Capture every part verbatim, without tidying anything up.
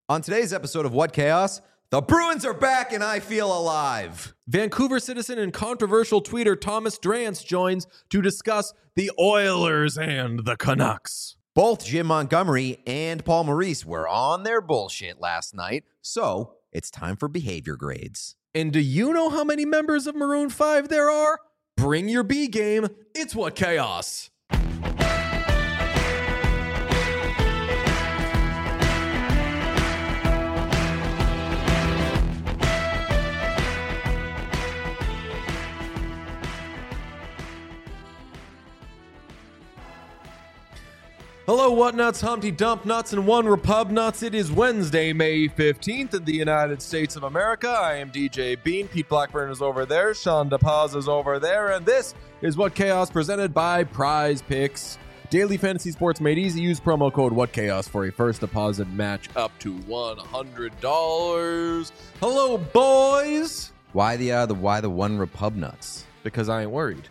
On today's episode of What Chaos, the Bruins are back and I feel alive. Vancouver citizen and controversial tweeter Thomas Drance joins to discuss the Oilers and the Canucks. Both Jim Montgomery and Paul Maurice were on their bullshit last night, so it's time for behavior grades. And do you know how many members of Maroon five there are? Bring your B game. It's What Chaos. Hello, what nuts, Humpty Dump nuts, and one Repub nuts. It is Wednesday, May fifteenth in the United States of America. I am D J Bean. Pete Blackburn is over there. Sean DePaz is over there. And this is What Chaos presented by Prize Picks. Daily fantasy sports made easy. Use promo code WhatChaos for a first deposit match up to one hundred dollars. Hello, boys. Why the uh, the why the one Repub nuts? Because I ain't worried.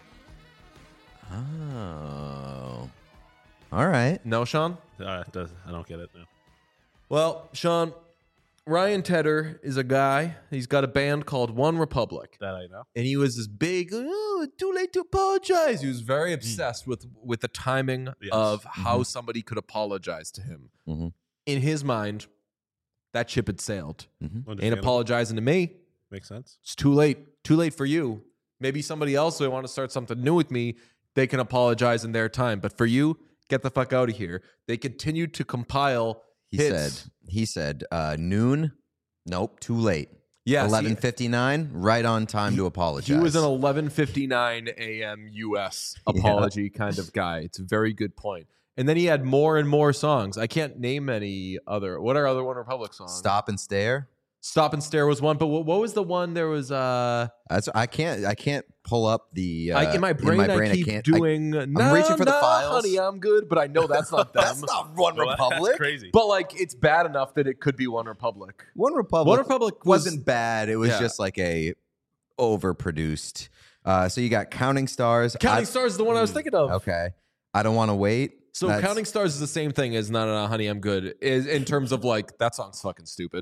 Oh. All right. No, Sean? Uh, does, I don't get it. No. Well, Sean, Ryan Tedder is a guy. He's got a band called One Republic. That I know. And he was this big, oh, too late to apologize. He was very obsessed mm. with, with the timing yes. of mm-hmm. how somebody could apologize to him. Mm-hmm. In his mind, that ship had sailed. Mm-hmm. Ain't apologizing to me. Makes sense. It's too late. Too late for you. Maybe somebody else who want to start something new with me, they can apologize in their time. But for you, get the fuck out of here. They continued to compile He hits. said, he said, uh, noon, nope, too late. Yes, eleven fifty-nine, right on time he, to apologize. He was an eleven fifty-nine a.m. U S apology yeah. kind of guy. It's a very good point. And then he had more and more songs. I can't name any other. What are other One Republic songs? Stop and Stare. Stop and Stare was one, but what, what was the one? There was uh That's I can't I can't pull up the uh, I, in my brain. In my brain I keep I doing. I, I'm nah, reaching for nah, the files. Honey, I'm good, but I know that's not them. That's not One well, Republic. That's crazy. But like, it's bad enough that it could be One Republic. One Republic. One Republic was, wasn't bad. It was yeah. just like a overproduced. Uh, so you got Counting Stars. Counting I, Stars is the one I was thinking of. Okay, I Don't Want to Wait. So That's, Counting Stars is the same thing as No, No, No, Honey, I'm Good. Is in terms of like that song's fucking stupid.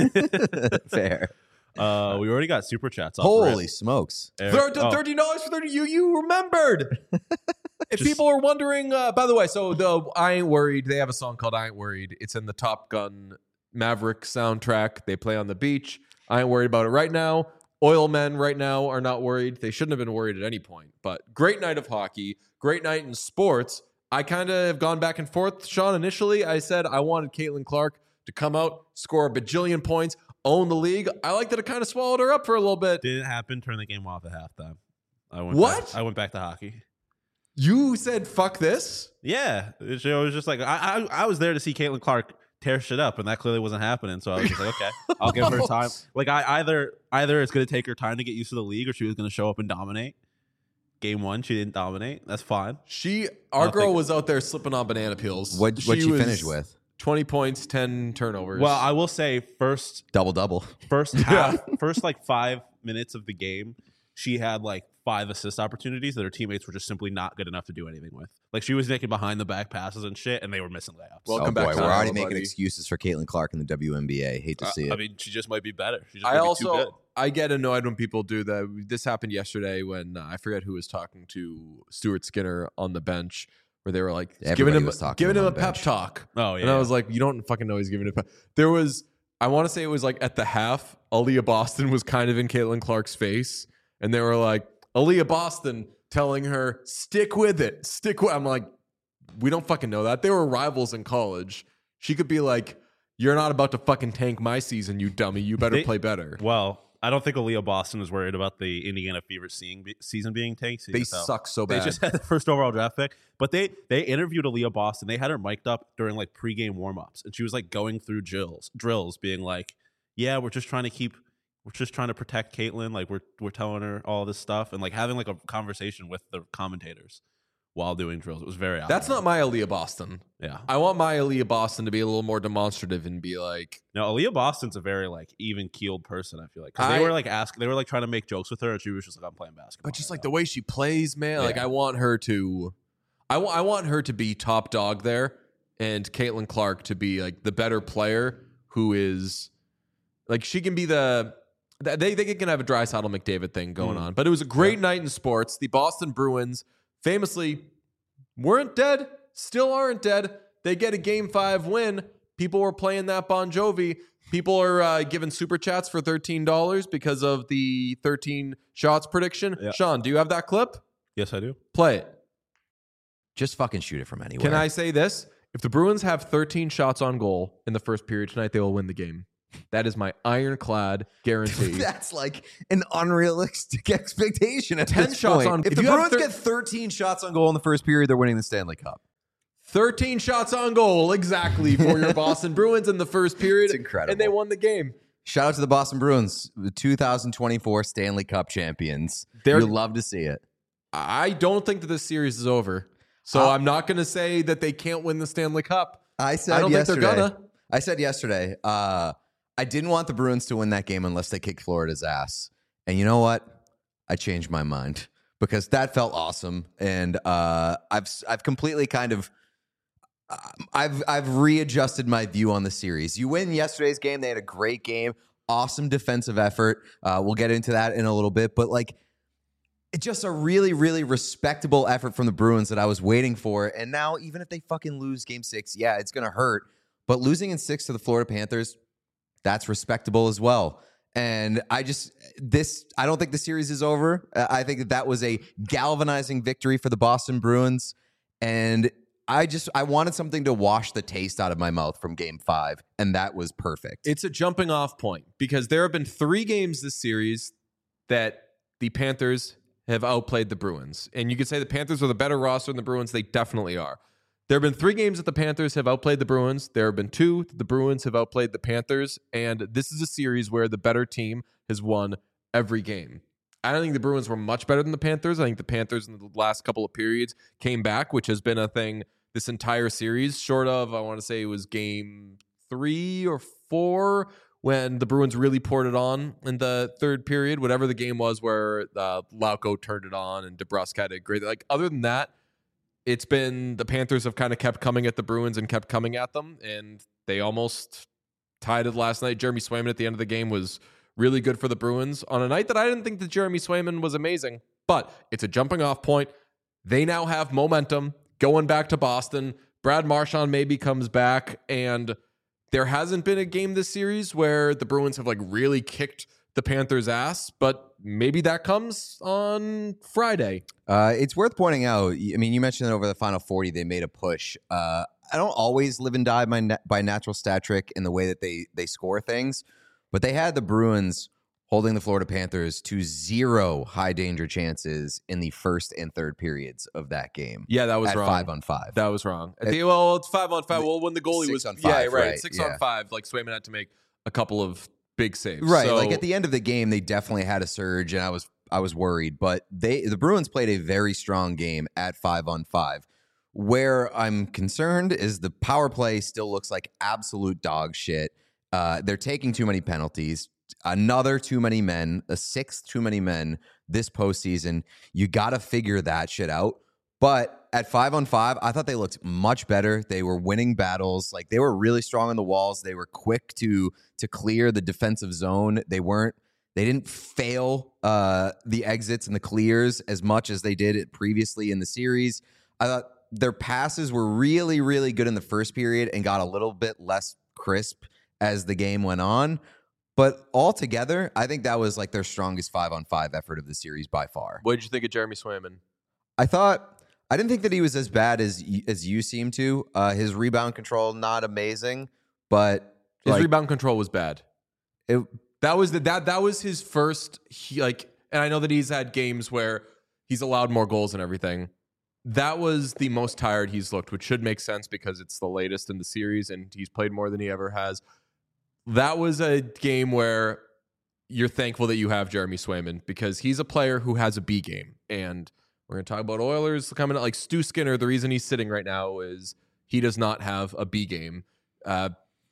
Fair. Uh, we already got super chats. Off Holy smokes! Eric, oh. Thirteen dollars for thirty. You you remembered. If Just, people are wondering, uh, by the way, so the I Ain't Worried. They have a song called I Ain't Worried. It's in the Top Gun Maverick soundtrack. They play on the beach. I ain't worried about it right now. Oil men right now are not worried. They shouldn't have been worried at any point. But great night of hockey. Great night in sports. I kind of have gone back and forth. Sean, initially, I said I wanted Caitlin Clark to come out, score a bajillion points, own the league. I like that it kind of swallowed her up for a little bit. Didn't happen. Turn the game off at halftime. I went what? Back, I went back to hockey. You said fuck this? Yeah. It was just like, I, I I was there to see Caitlin Clark tear shit up, and that clearly wasn't happening. So I was just like, okay, I'll give her time. Like, I either either it's going to take her time to get used to the league, or she was going to show up and dominate. Game one, she didn't dominate. That's fine. She, our girl think, was out there slipping on banana peels. What what'd she, she finish with? twenty points, ten turnovers. Well, I will say first double double. First half, first like five minutes of the game, she had like five assist opportunities that her teammates were just simply not good enough to do anything with. Like, she was making behind the back passes and shit, and they were missing layups. Welcome oh, back. Boy, we're already buddy. making excuses for Caitlin Clark in the W N B A. Hate to uh, see it. I mean, she just might be better. She just I might also be too good. I get annoyed when people do that. This happened yesterday when uh, I forget who was talking to Stuart Skinner on the bench, where they were like Everybody giving him was giving him him a pep talk. Oh yeah, and I was like, you don't fucking know he's giving a pep. There was, I want to say it was like at the half, Aaliyah Boston was kind of in Caitlin Clark's face, and they were like, Aaliyah Boston telling her, stick with it, stick with. I'm like, we don't fucking know that. They were rivals in college. She could be like, you're not about to fucking tank my season, you dummy. You better they, play better. Well, I don't think Aaliyah Boston was worried about the Indiana Fever seeing, season being tanked. They suck so bad. They just had the first overall draft pick. But they they interviewed Aaliyah Boston. They had her mic'd up during like pregame warmups, and she was like going through drills, drills, being like, "Yeah, we're just trying to keep, we're just trying to protect Caitlin. Like we're we're telling her all this stuff, and like having like a conversation with the commentators while doing drills. It was very. That's not my Aaliyah Boston. Yeah, I want my Aaliyah Boston to be a little more demonstrative and be like, no, Aaliyah Boston's a very like even keeled person. I feel like because they were like ask, they were like trying to make jokes with her, and she was just like, "I'm playing basketball." But just like the way she plays, man, Yeah. like I want her to, I want I want her to be top dog there, and Caitlin Clark to be like the better player who is like she can be the they they can have a Draisaitl McDavid thing going Mm. on. But it was a great Yeah. night in sports. The Boston Bruins famously weren't dead, still aren't dead. They get a game five win. People were playing that Bon Jovi. People are uh, giving super chats for thirteen dollars because of the thirteen shots prediction. Yeah. Sean, do you have that clip? Yes, I do. Play it. Just fucking shoot it from anywhere. Can I say this? If the Bruins have thirteen shots on goal in the first period tonight, they will win the game. That is my ironclad guarantee. That's like an unrealistic expectation at ten this shots point. on- If, if the you have Bruins thir- get thirteen shots on goal in the first period, they're winning the Stanley Cup. thirteen shots on goal, exactly, for your Boston Bruins in the first period. It's incredible. And they won the game. Shout out to the Boston Bruins, the two thousand twenty-four Stanley Cup champions. They're- You'll love to see it. I don't think that this series is over. So Uh, I'm not going to say that they can't win the Stanley Cup. I said I don't think they're yesterday. gonna. I said yesterday. Uh, I didn't want the Bruins to win that game unless they kicked Florida's ass. And you know what? I changed my mind because that felt awesome. And uh, I've I've completely kind of uh, I've I've readjusted my view on the series. You win yesterday's game. They had a great game, awesome defensive effort. Uh, we'll get into that in a little bit, but like. It's just a really, really respectable effort from the Bruins that I was waiting for. And now, even if they fucking lose game six, yeah, it's going to hurt. But losing in six to the Florida Panthers, that's respectable as well. And I just, this, I don't think the series is over. Uh, I think that that was a galvanizing victory for the Boston Bruins. And I just, I wanted something to wash the taste out of my mouth from game five. And that was perfect. It's a jumping off point because there have been three games this series that the Panthers have outplayed the Bruins. And you could say the Panthers are the better roster than the Bruins. They definitely are. There have been three games that the Panthers have outplayed the Bruins. There have been two that the Bruins have outplayed the Panthers. And this is a series where the better team has won every game. I don't think the Bruins were much better than the Panthers. I think the Panthers in the last couple of periods came back, which has been a thing this entire series, short of, I want to say it was game three or four, when the Bruins really poured it on in the third period, whatever the game was where uh, Lauko turned it on and DeBrusk had a great, like other than that, it's been the Panthers have kind of kept coming at the Bruins and kept coming at them. And they almost tied it last night. Jeremy Swayman at the end of the game was really good for the Bruins on a night that I didn't think that Jeremy Swayman was amazing, but it's a jumping off point. They now have momentum going back to Boston. Brad Marchand maybe comes back, and there hasn't been a game this series where the Bruins have like really kicked the Panthers' ass, but maybe that comes on Friday. Uh, it's worth pointing out. I mean, you mentioned that over the final forty, they made a push. Uh, I don't always live and die by, na- by natural stat trick in the way that they they score things, but they had the Bruins holding the Florida Panthers to zero high danger chances in the first and third periods of that game. Yeah, that was at wrong. five on five. That was wrong. I think, well, it's five on five. Well, when the goalie Six was on yeah, five, right, right, six yeah. on five. Like Swayman had to make a couple of big saves. Right, So, like at the end of the game, they definitely had a surge, and I was I was worried. But they the Bruins played a very strong game at five on five. Where I'm concerned is the power play still looks like absolute dog shit. Uh, they're taking too many penalties. Another too many men, a sixth too many men this postseason. You got to figure that shit out. But at five on five, I thought they looked much better. They were winning battles. Like they were really strong on the walls. They were quick to to clear the defensive zone. They weren't. They didn't fail uh, the exits and the clears as much as they did it previously in the series. I thought their passes were really, really good in the first period and got a little bit less crisp as the game went on. But altogether, I think that was like their strongest five on five effort of the series by far. what did you think of Jeremy Swayman? I thought I didn't think that he was as bad as as you seem to. Uh, his rebound control not amazing, but His like, rebound control was bad. it, That was the that that was his first he, like, and I know that he's had games where he's allowed more goals and everything. That was the most tired he's looked, which should make sense because it's the latest in the series and he's played more than he ever has. That was a game where you're thankful that you have Jeremy Swayman because he's a player who has a B game. And we're going to talk about Oilers coming out like Stu Skinner. The reason he's sitting right now is he does not have a B game. Uh,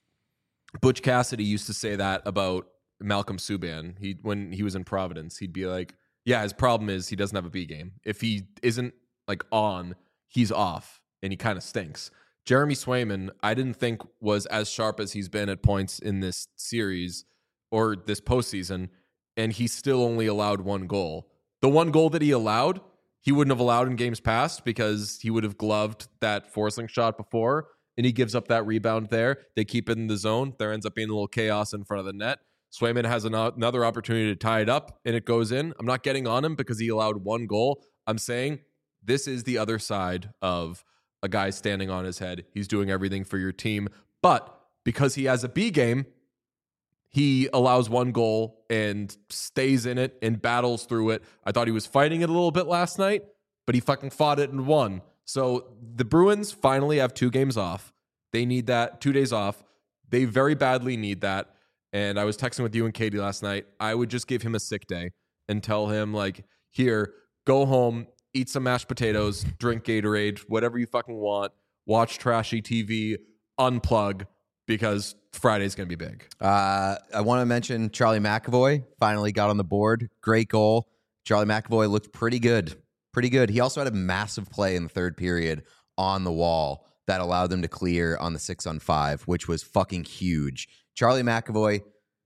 Butch Cassidy used to say that about Malcolm Subban. He when he was in Providence, he'd be like, yeah, his problem is he doesn't have a B game. If he isn't like on, he's off and he kind of stinks. Jeremy Swayman, I didn't think was as sharp as he's been at points in this series or this postseason, and he still only allowed one goal. The one goal that he allowed, he wouldn't have allowed in games past because he would have gloved that forcing shot before, and he gives up that rebound there. They keep it in the zone. There ends up being a little chaos in front of the net. Swayman has an, another opportunity to tie it up, and it goes in. I'm not getting on him because he allowed one goal. I'm saying this is the other side of a guy standing on his head. He's doing everything for your team. But because he has a B game, he allows one goal and stays in it and battles through it. I thought he was fighting it a little bit last night, but he fucking fought it and won. So the Bruins finally have two games off. They need that, two days off. They very badly need that. And I was texting with you and Katie last night. I would just give him a sick day and tell him, like, here, go home, eat some mashed potatoes, drink Gatorade, whatever you fucking want, watch trashy T V, unplug, because Friday's going to be big. Uh, I want to mention Charlie McAvoy finally got on the board. Great goal. Charlie McAvoy looked pretty good. Pretty good. He also had a massive play in the third period on the wall that allowed them to clear on the six on five, which was fucking huge. Charlie McAvoy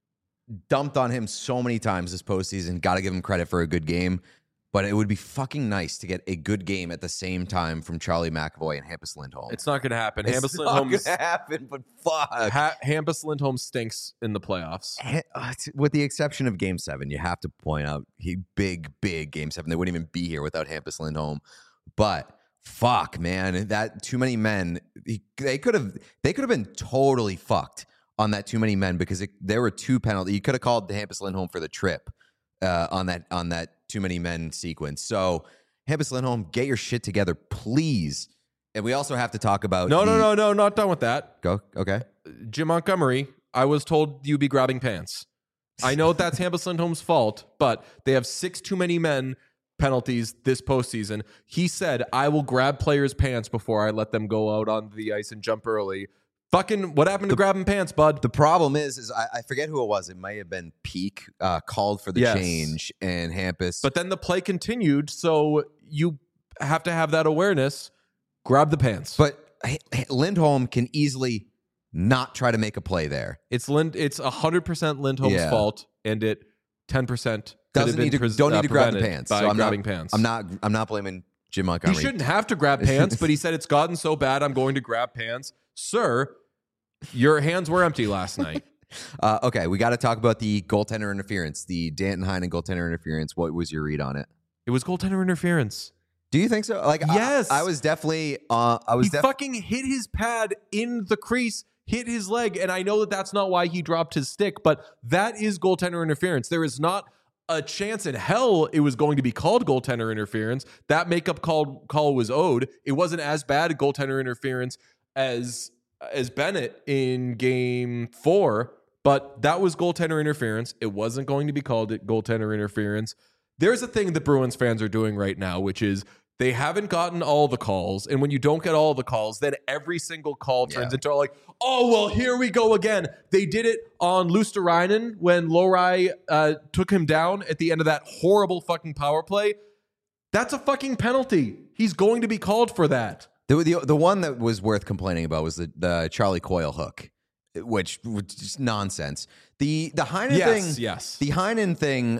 dumped on him so many times this postseason. Got to give him credit for a good game. But it would be fucking nice to get a good game at the same time from Charlie McAvoy and Hampus Lindholm. It's not going to happen. It's Hampus not Lindholm going to happen, but fuck. Ha- Hampus Lindholm stinks in the playoffs. With the exception of Game Seven, you have to point out he big, big Game Seven. They wouldn't even be here without Hampus Lindholm. But fuck, man, that too many men. He, they could have. They could have been totally fucked on that too many men because it, there were two penalties. You could have called Hampus Lindholm for the trip uh, on that on that too many men sequence. So Hampus Lindholm, get your shit together, please. And we also have to talk about no, the, no, no, no, not done with that. Go okay. Jim Montgomery, I was told you'd be grabbing pants. I know that's Hampus Lindholm's fault, but they have six too many men penalties this postseason. He said, I will grab players' pants before I let them go out on the ice and jump early. Fucking, what happened to The- grabbing pants, bud? The problem is, is I, I forget who it was. It might have been Peak uh, called for the Yes. change, and Hampus. But then the play continued, so you have to have that awareness. Grab the pants. but H- H- Lindholm can easily not try to make a play there. It's Lind. It's one hundred percent Lindholm's Yeah. fault, and it ten percent could have Doesn't been need to pres- don't need uh, to grab the prevented pants. by So I'm grabbing not, pants. I'm not. I'm not blaming Jim He Montgomery. shouldn't have to grab pants, but he said it's gotten so bad, I'm going to grab pants. Sir, your hands were empty last night. Uh, okay, we got to talk about the goaltender interference, the Danton Heinen goaltender interference. What was your read on it? It was goaltender interference. Do you think so? Like, I- Yes. I, was definitely. Uh, I was He def- fucking hit his pad in the crease, hit his leg, and I know that that's not why he dropped his stick, but that is goaltender interference. There is not a chance in hell it was going to be called goaltender interference. That makeup call call was owed. It wasn't as bad a goaltender interference as as Bennett in game four, but that was goaltender interference. It wasn't going to be called it goaltender interference. There's a thing that Bruins fans are doing right now, which is they haven't gotten all the calls. And when you don't get all the calls, then every single call turns Yeah. into like, oh, well, here we go again. They did it on Luosterainen when Lohrei uh, took him down at the end of that horrible fucking power play. That's a fucking penalty. He's going to be called for that. The, the the one that was worth complaining about was the, the Charlie Coyle hook, which was just nonsense. The the Heinen Yes, thing, yes. the Heinen thing.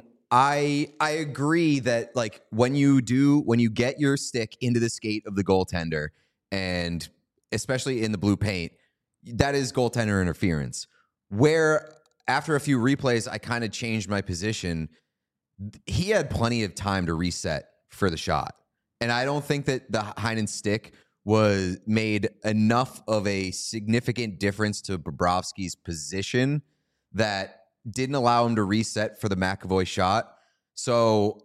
I I agree that like when you do when you get your stick into the skate of the goaltender, and especially in the blue paint, that is goaltender interference. Where after a few replays, I kind of changed my position. He had plenty of time to reset for the shot, and I don't think that the Heinen stick was made enough of a significant difference to Bobrovsky's position that didn't allow him to reset for the McAvoy shot. So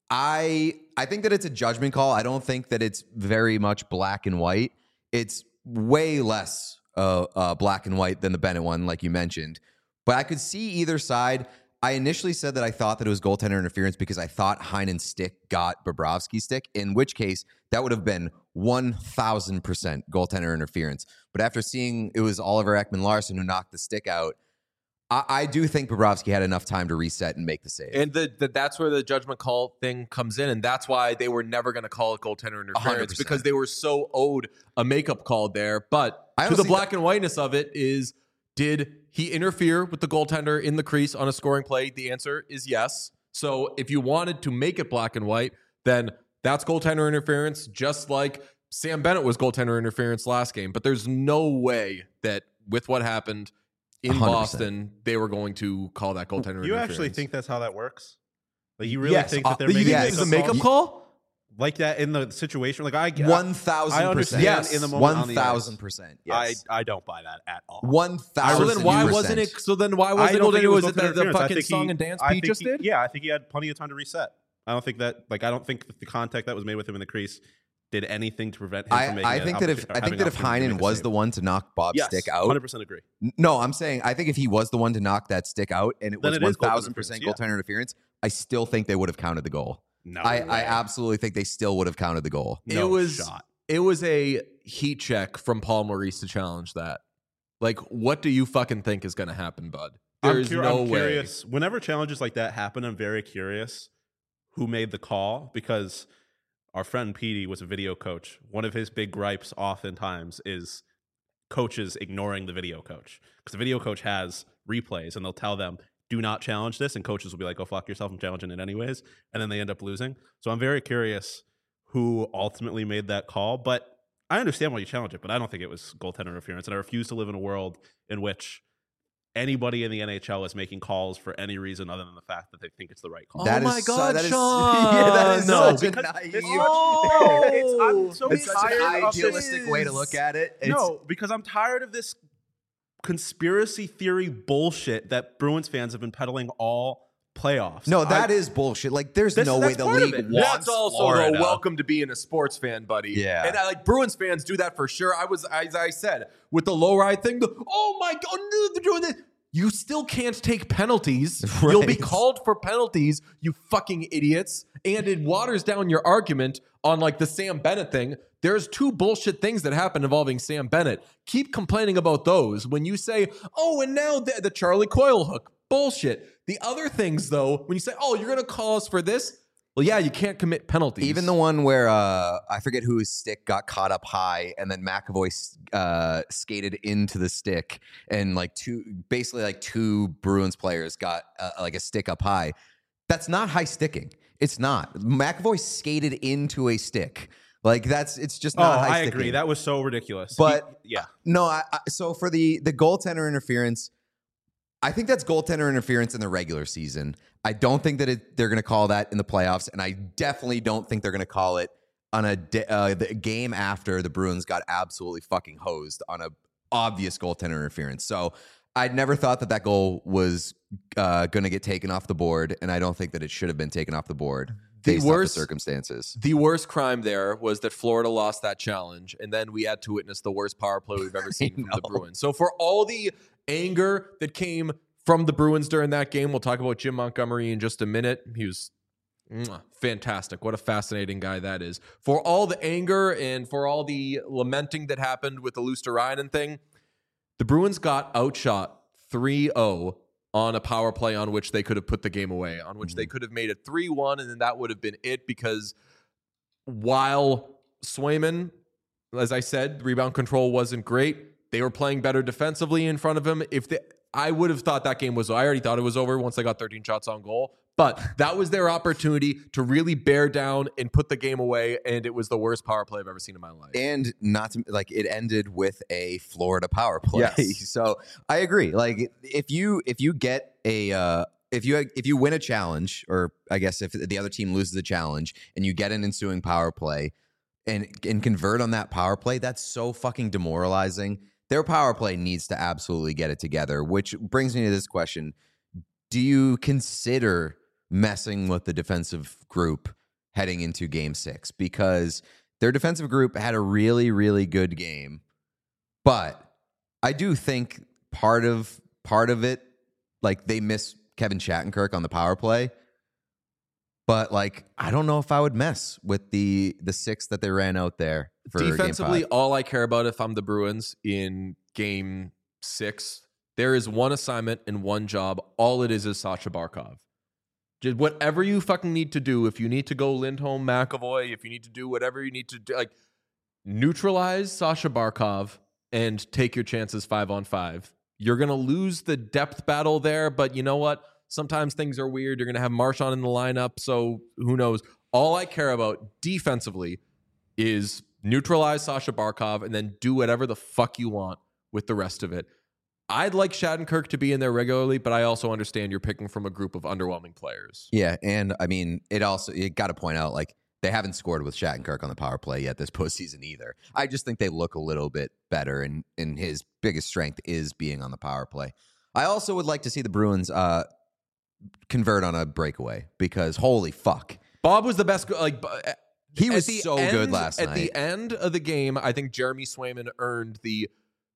I I think that it's a judgment call. I don't think that it's very much black and white. It's way less uh, uh, black and white than the Bennett one, like you mentioned. But I could see either side. I initially said that I thought that it was goaltender interference because I thought Heinen's stick got Bobrovsky's stick, in which case that would have been one thousand percent goaltender interference. But after seeing it was Oliver Ekman-Larsson who knocked the stick out, I, I do think Bobrovsky had enough time to reset and make the save. And the, the that's where the judgment call thing comes in, and that's why they were never going to call it goaltender interference one hundred percent. because they were so owed a makeup call there. But I to the honestly black th- and whiteness of it is, did he interfere with the goaltender in the crease on a scoring play? The answer is yes. So if you wanted to make it black and white, then that's goaltender interference, just like Sam Bennett was goaltender interference last game. But there's no way that with what happened in one hundred percent. Boston, they were going to call that goaltender You interference. actually think that's how that works? Like you really Yes, think that they're uh, making you think yes. this is a makeup makeup calls? call? like that in the situation? Like I One I thousand understand percent. Yes. in the moment on One the thousand ice. percent. I Yes. I don't buy that at all. One So thousand. then why wasn't it? So then why I wasn't it don't think goaltender? it Was was it the, goaltender the interference. I fucking think song he- and dance I Pete think just he- did? Yeah, I think he had plenty of time to reset. I don't think that like I don't think that the contact that was made with him in the crease did anything to prevent him I, from making I an think that if opportu- I having think that if an opportunity to Heinen make a was save. the one to knock Bob's yes, stick one out, hundred percent agree. no, I'm saying I think if he was the one to knock that stick out and it Then was it one is goaltender thousand percent interference, goaltender interference, I still think they would have counted the goal. No, I, way. I absolutely think they still would have counted the goal. no it was shot. it was a heat check from Paul Maurice to challenge that. Like, what do you fucking think is going to happen, bud? I'm, There's cur- no I'm way. curious. Whenever challenges like that happen, I'm very curious who made the call because our friend Petey was a video coach. One of his big gripes oftentimes is coaches ignoring the video coach because the video coach has replays and they'll tell them, do not challenge this. And coaches will be like, go fuck yourself, I'm challenging it anyways. And then they end up losing. So I'm very curious who ultimately made that call. But I understand why you challenge it, but I don't think it was goaltender interference. And I refuse to live in a world in which anybody in the N H L is making calls for any reason other than the fact that they think it's the right call. Oh That is my su- God, that is- Sean! yeah, that is No, such a because naive. it's such- Oh! no, it's- I'm so It's such tired an of idealistic this. way to look at it. It's, No, because I'm tired of this conspiracy theory bullshit that Bruins fans have been peddling all playoffs. no, that I- is bullshit. Like, there's This- no that's way the part of league it. wants That's also Florida. the welcome to being a sports fan, buddy. Yeah. and I, like Bruins fans do that for sure. I was, as I said, with the low ride thing. The, oh my god, no, they're doing this. You still can't take penalties. You'll be Right. called for penalties, you fucking idiots. And it waters down your argument on like the Sam Bennett thing. There's two bullshit things that happen involving Sam Bennett. Keep complaining about those when you say, oh, and now the, the Charlie Coyle hook. Bullshit. The other things, though, when you say, oh, you're going to call us for this? Well, yeah, you can't commit penalties. Even the one where uh, I forget whose stick got caught up high, and then McAvoy uh, skated into the stick, and like two, basically like two Bruins players got uh, like a stick up high. That's not high sticking. It's not. McAvoy skated into a stick. Like that's. It's just Oh, not high I sticking. agree. That was so ridiculous. But- He- yeah, No, I, I, so for the the goaltender interference, I think that's goaltender interference in the regular season. I don't think that it, they're going to call that in the playoffs, and I definitely don't think they're going to call it on a da- uh, the game after the Bruins got absolutely fucking hosed on a obvious goaltender interference. So I'd never thought that that goal was uh, going to get taken off the board, and I don't think that it should have been taken off the board The based worst- off the circumstances. The worst crime there was that Florida lost that challenge, and then we had to witness the worst power play we've ever seen from the know. Bruins. So for all the anger that came from the Bruins during that game, we'll talk about Jim Montgomery in just a minute. He was mwah, fantastic. What a fascinating guy that is. For all the anger and for all the lamenting that happened with the Luosterainen thing, the Bruins got outshot three oh on a power play on which they could have put the game away, on which they could have made it three one, and then that would have been it because while Swayman, as I said, rebound control wasn't great, they were playing better defensively in front of him. If they, I would have thought that game was, I already thought it was over once they got thirteen shots on goal, but that was their opportunity to really bear down and put the game away, and it was the worst power play I've ever seen in my life. And not to like it ended with a Florida power play. Yes. So I agree. Like if you if you get a uh, if you if you win a challenge, or I guess if the other team loses a challenge and you get an ensuing power play and and convert on that power play, that's so fucking demoralizing. Their power play needs to absolutely get it together, which brings me to this question. Do you consider messing with the defensive group heading into game six? Because their defensive group had a really, really good game. But I do think part of part of it, like they miss Kevin Shattenkirk on the power play. But like, I don't know if I would mess with the the six that they ran out there for Defensively, game five. all I care about if I'm the Bruins in game six There is one assignment and one job. All it is is Sasha Barkov. Just whatever you fucking need to do. If you need to go Lindholm, McAvoy, if you need to do whatever you need to do, like neutralize Sasha Barkov and take your chances five on five. You're going to lose the depth battle there, but you know what? Sometimes things are weird. You're going to have Marchand in the lineup, so who knows? All I care about defensively is neutralize Sasha Barkov and then do whatever the fuck you want with the rest of it. I'd like Shattenkirk to be in there regularly, but I also understand you're picking from a group of underwhelming players. Yeah, and I mean, it also, you got to point out, like, they haven't scored with Shattenkirk on the power play yet this postseason either. I just think they look a little bit better, and, and his biggest strength is being on the power play. I also would like to see the Bruins uh, convert on a breakaway, because holy fuck. Bob was the best, like, he was so end, good last at night. At the end of the game, I think Jeremy Swayman earned the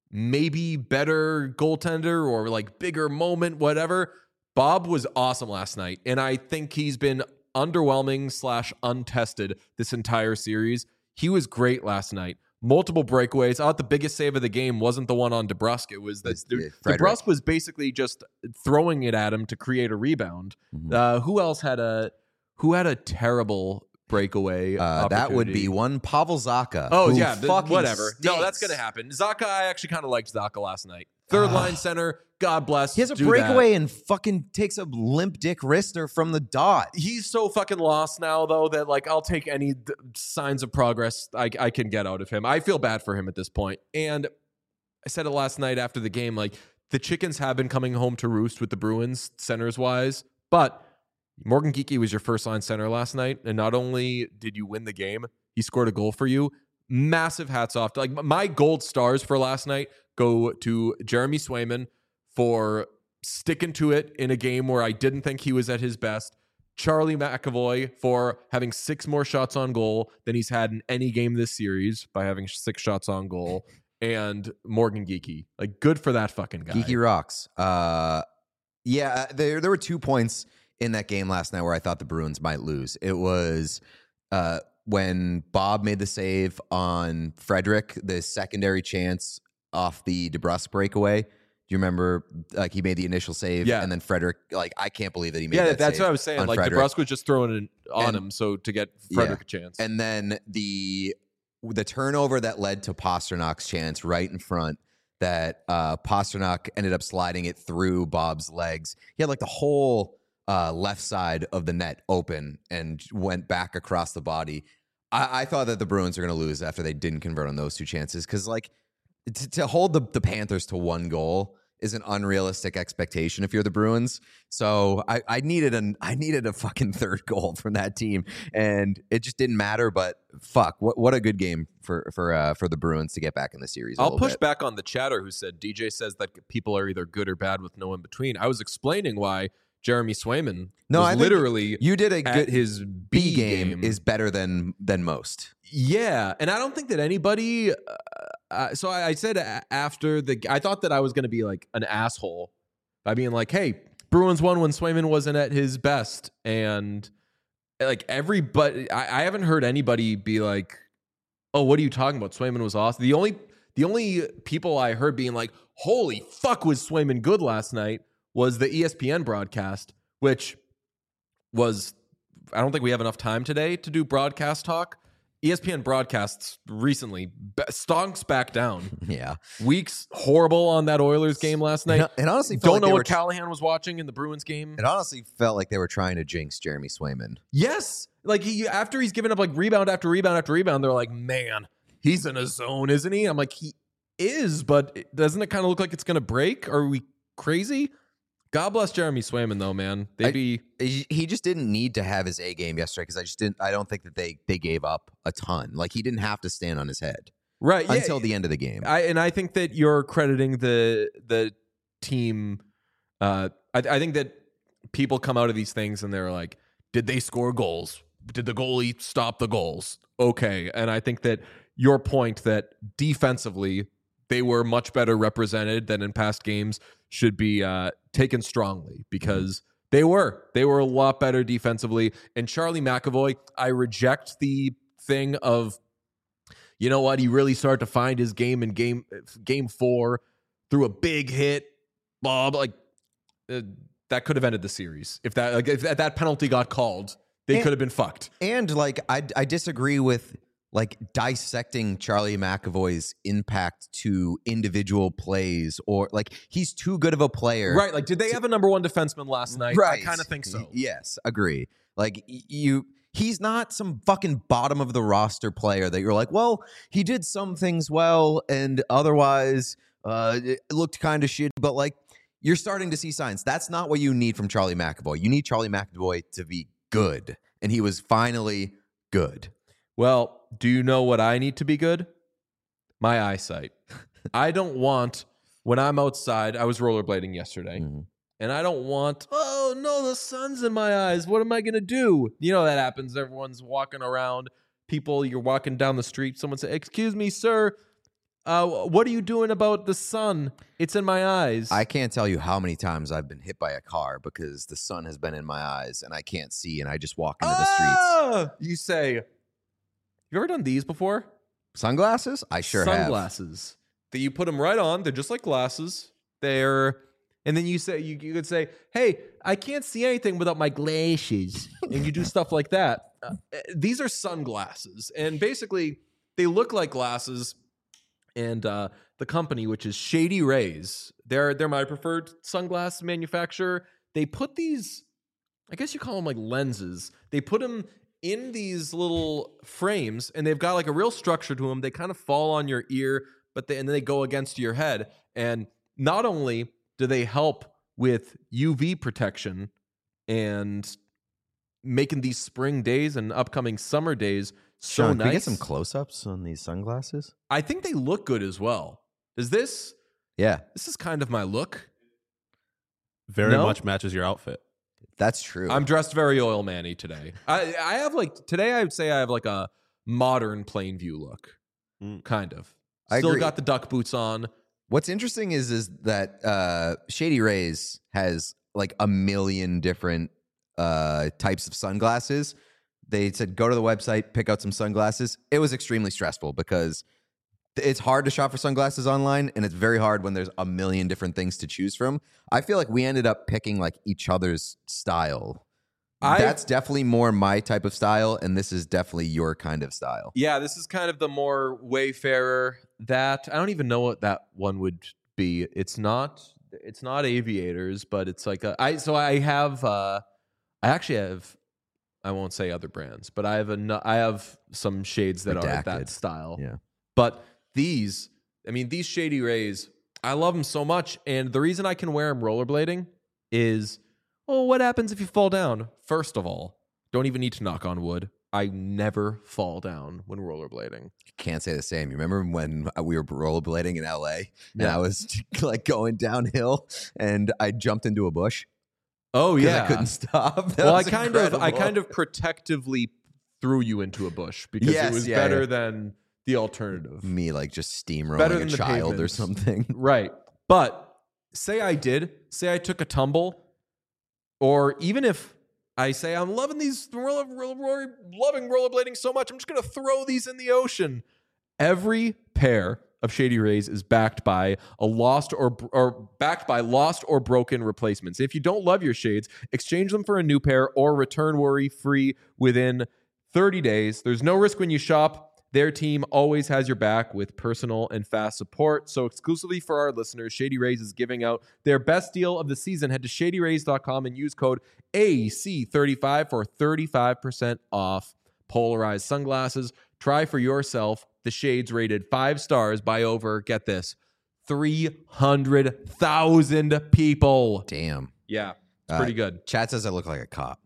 maybe better goaltender or like bigger moment, whatever. Bob was awesome last night, and I think he's been underwhelming slash untested this entire series. He was great last night. Multiple breakaways. I thought the biggest save of the game wasn't the one on DeBrusk. It was that DeBrusk was basically just throwing it at him to create a rebound. Mm-hmm. Uh, who else had a who had a terrible breakaway? Uh, that would be one Pavel Zacha. Oh yeah, the, whatever. Stinks. No, that's gonna happen. Zacha, I actually kind of liked Zacha last night. Third line center. God bless. He has a breakaway that. and fucking takes a limp dick wrister from the dot. He's so fucking lost now, though, that like I'll take any d- signs of progress I, I can get out of him. I feel bad for him at this point. And I said it last night after the game, like the chickens have been coming home to roost with the Bruins centers wise, but Morgan Geekie was your first line center last night, and not only did you win the game, he scored a goal for you. Massive hats off to, like, my gold stars for last night go to Jeremy Swayman for sticking to it in a game where I didn't think he was at his best. Charlie McAvoy for having six more shots on goal than he's had in any game this series by having six shots on goal. And Morgan Geekie, like, good for that fucking guy. Geekie rocks. Uh, yeah, there there were two points in that game last night where I thought the Bruins might lose. It was uh, when Bob made the save on Frederick, the secondary chance off the DeBrusk breakaway. Do you remember, like, he made the initial save, yeah. and then Frederick, like, I can't believe that he made yeah, that that's save what I was saying. Like, Frederick. DeBrusk was just throwing it on and, him so to get Frederick yeah. a chance. And then the the turnover that led to Pasternak's chance right in front, that uh, Pasternak ended up sliding it through Bob's legs. He had, like, the whole uh, left side of the net open and went back across the body. I, I thought that the Bruins were going to lose after they didn't convert on those two chances, because, like, to, to hold the, the Panthers to one goal is an unrealistic expectation if you're the Bruins. So I, I needed an I needed a fucking third goal from that team, and it just didn't matter. But fuck, what what a good game for for uh, for the Bruins to get back in the series. I'll push bit. back on the chatter who said D J says that people are either good or bad with no in between. I was explaining why Jeremy Swayman no, was I literally you did a good his B, B game, game is better than than most. Yeah, and I don't think that anybody. Uh, uh, so I, I said a- after the, I thought that I was going to be like an asshole by being like, "Hey, Bruins won when Swayman wasn't at his best," and like everybody, I, I haven't heard anybody be like, "Oh, what are you talking about? Swayman was awesome." The only the only people I heard being like, "Holy fuck, was Swayman good last night?" was the E S P N broadcast, which was, I don't think we have enough time today to do broadcast talk. E S P N broadcasts recently, stonks back down. Yeah. Weeks horrible on that Oilers game last night. And, and honestly, don't like know what what Callahan was watching in the Bruins game. It honestly felt like they were trying to jinx Jeremy Swayman. Yes. Like, he, after he's given up like rebound after rebound after rebound, they're like, man, he's in a zone, isn't he? I'm like, he is, but doesn't it kind of look like it's going to break? Are we crazy? God bless Jeremy Swayman, though, man. They be he just didn't need to have his A game yesterday, because I just didn't. I don't think that they they gave up a ton. Like, he didn't have to stand on his head right yeah, until the end of the game. I and I think that you're crediting the the team. Uh, I, I think that people come out of these things and they're like, "Did they score goals? Did the goalie stop the goals?" Okay, and I think that your point that defensively they were much better represented than in past games should be uh, taken strongly, because mm-hmm. they were. They were a lot better defensively. And Charlie McAvoy, I reject the thing of, you know what, he really started to find his game in game game four through a big hit blah, blah, like uh, that could have ended the series if that like if that, that penalty got called. They And- could have been fucked. And like I I disagree with like dissecting Charlie McAvoy's impact to individual plays, or like he's too good of a player. Right. Like, did they have a number one defenseman last night? Right. I kind of think so. Y- Yes, agree. Like y- you he's not some fucking bottom of the roster player that you're like, well, he did some things well and otherwise uh it looked kind of shitty, but like you're starting to see signs. That's not what you need from Charlie McAvoy. You need Charlie McAvoy to be good, and he was finally good. Well, do you know what I need to be good? My eyesight. I don't want, when I'm outside, I was rollerblading yesterday, Mhm. and I don't want, oh no, the sun's in my eyes. What am I going to do? You know that happens. Everyone's walking around. People, you're walking down the street. Someone say, excuse me, sir. Uh, what are you doing about the sun? It's in my eyes. I can't tell you how many times I've been hit by a car because the sun has been in my eyes and I can't see, and I just walk into the streets. Ah! You say, have you ever done these before? Sunglasses? I sure have. Sunglasses. That you put them right on. They're just like glasses. They're, and then you say, you, you could say, hey, I can't see anything without my glasses. And you do stuff like that. Uh, these are sunglasses. And basically, they look like glasses. And uh, the company, which is Shady Rays, they're they're my preferred sunglass manufacturer. They put these, I guess you call them like lenses. They put them in these little frames, and they've got like a real structure to them. They kind of fall on your ear, but they, and then they go against your head. And not only do they help with U V protection and making these spring days and upcoming summer days so Sean, nice. can we get some close-ups on these sunglasses? I think they look good as well. Is this Yeah, this is kind of my look? Very No? much matches your outfit. that's true. I'm dressed very oil manny today. I I have like today I would say I have like a modern plain view look. Mm. Kind of. I Still agree. got the duck boots on. What's interesting is is that uh, Shady Rays has like a million different uh, types of sunglasses. They said go to the website, pick out some sunglasses. It was extremely stressful because it's hard to shop for sunglasses online, and it's very hard when there's a million different things to choose from. I feel like we ended up picking like each other's style. I've- That's definitely more my type of style, and this is definitely your kind of style. Yeah, this is kind of the more Wayfarer. That I don't even know what that one would be. It's not. It's not aviators, but it's like a, I. So I have. Uh, I actually have. I won't say other brands, but I have a. nu- I have some shades that are Redacted. that style. Yeah. But these, I mean, these Shady Rays, I love them so much, and the reason I can wear them rollerblading is, oh, what happens if you fall down? First of all, don't even need to knock on wood. I never fall down when rollerblading. Can't say the same. You remember when we were rollerblading in L A and Yeah. I was like going downhill and I jumped into a bush Oh because yeah. I couldn't stop. That well, I was kind of, I incredible. kind of protectively threw you into a bush because Yes, it was yeah, better yeah. than the alternative. me like just steamrolling Better a than the child or pavement. something. Right. But say I did, say I took a tumble, or even if I say I'm loving these, roller, roller, roller, loving rollerblading so much, I'm just going to throw these in the ocean. Every pair of Shady Rays is backed by a lost or or backed by lost or broken replacements. If you don't love your shades, exchange them for a new pair or return worry free within thirty days. There's no risk when you shop. Their team always has your back with personal and fast support. So exclusively for our listeners, Shady Rays is giving out their best deal of the season. Head to shady rays dot com and use code A C thirty-five for thirty-five percent off polarized sunglasses. Try for yourself the shades rated five stars by over, get this, three hundred thousand people. Damn. Yeah, it's Uh, pretty good. Chad says I look like a cop.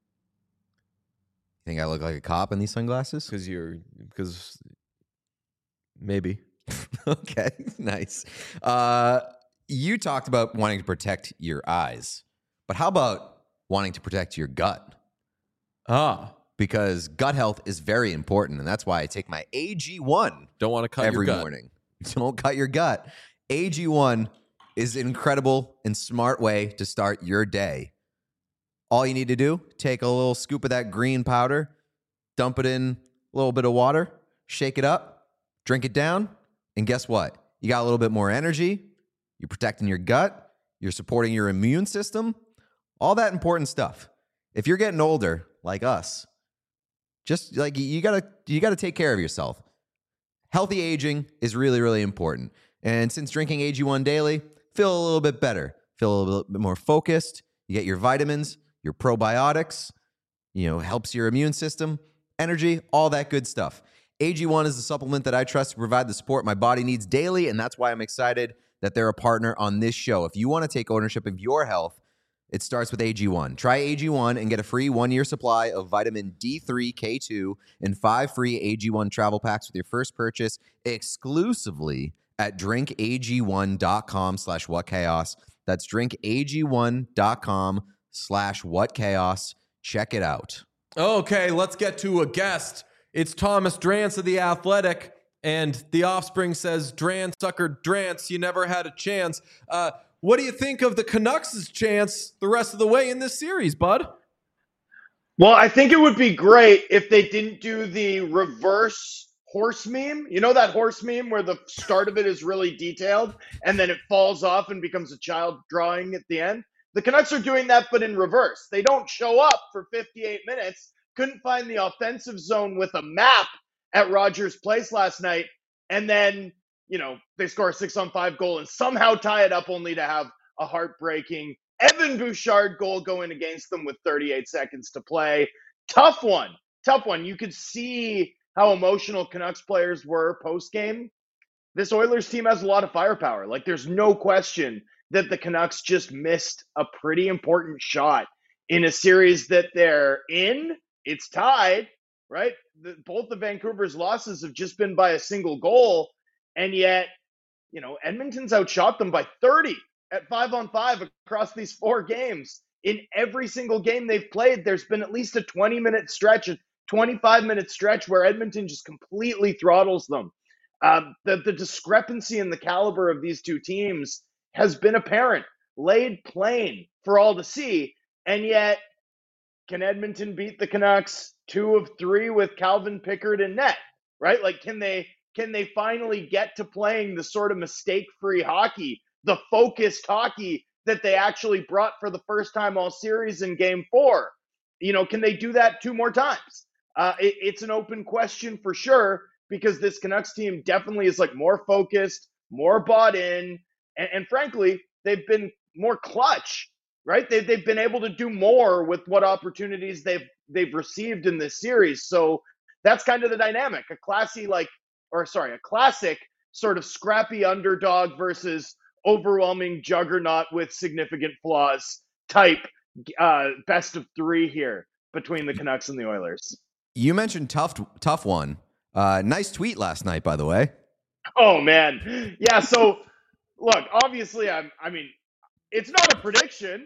Think I look like a cop in these sunglasses? Because you're, because maybe. Okay, nice. Uh, you talked about wanting to protect your eyes, but how about wanting to protect your gut? Ah, Because gut health is very important, and that's why I take my A G one don't want to cut every your gut. morning. Don't cut your gut. A G one is an incredible and smart way to start your day. All you need to do, take a little scoop of that green powder, dump it in a little bit of water, shake it up, drink it down, and guess what? You got a little bit more energy. You're protecting your gut. you're supporting your immune system, all that important stuff. If you're getting older, like us, just like you gotta, you gotta take care of yourself. Healthy aging is really, really important. And since drinking A G one daily, feel a little bit better, feel a little bit more focused. You get your vitamins, your probiotics, you know, helps your immune system, energy, all that good stuff. A G one is the supplement that I trust to provide the support my body needs daily, and that's why I'm excited that they're a partner on this show. If you want to take ownership of your health, it starts with A G one. Try A G one and get a free one-year supply of vitamin D three, K two, and five free A G one travel packs with your first purchase exclusively at drinkag1.com slash whatchaos. That's drinkag1.com slash whatchaos. Check it out. Okay, let's get to a guest. It's Thomas Drance of The Athletic, and The Offspring says, Drance, sucker, Drance, you never had a chance. Uh, what do you think of the Canucks' chance the rest of the way in this series, bud? Well, I think it would be great if they didn't do the reverse horse meme. You know that horse meme where the start of it is really detailed and then it falls off and becomes a child drawing at the end? The Canucks are doing that, but in reverse. They don't show up for fifty-eight minutes, couldn't find the offensive zone with a map at Rogers Place last night, and then, you know, they score a six-on-five goal and somehow tie it up only to have a heartbreaking Evan Bouchard goal going against them with thirty-eight seconds to play. Tough one. Tough one. You could see how emotional Canucks players were post-game. This Oilers team has a lot of firepower. Like, there's no question that the Canucks just missed a pretty important shot in a series that they're in. It's tied, right? The, both the Vancouver's losses have just been by a single goal, and yet, you know, Edmonton's outshot them by thirty at five on five across these four games. In every single game they've played, there's been at least a twenty-minute stretch, a twenty-five-minute stretch where Edmonton just completely throttles them. Um, the, the discrepancy in the caliber of these two teams has been apparent, laid plain for all to see, and yet, can Edmonton beat the Canucks two of three with Calvin Pickard in net, right? Like, can they can they finally get to playing the sort of mistake-free hockey, the focused hockey that they actually brought for the first time all series in game four? You know, can they do that two more times? Uh, it, it's an open question for sure, because this Canucks team definitely is like more focused, more bought in, and, and frankly, they've been more clutch. Right? They've, they've been able to do more with what opportunities they've they've received in this series. So that's kind of the dynamic. A classy, like, or sorry, a classic sort of scrappy underdog versus overwhelming juggernaut with significant flaws type uh, best of three here between the Canucks and the Oilers. You mentioned tough, tough one. Uh, nice tweet last night, by the way. Oh, man. Yeah, so, look, obviously, I'm, I mean, it's not a prediction.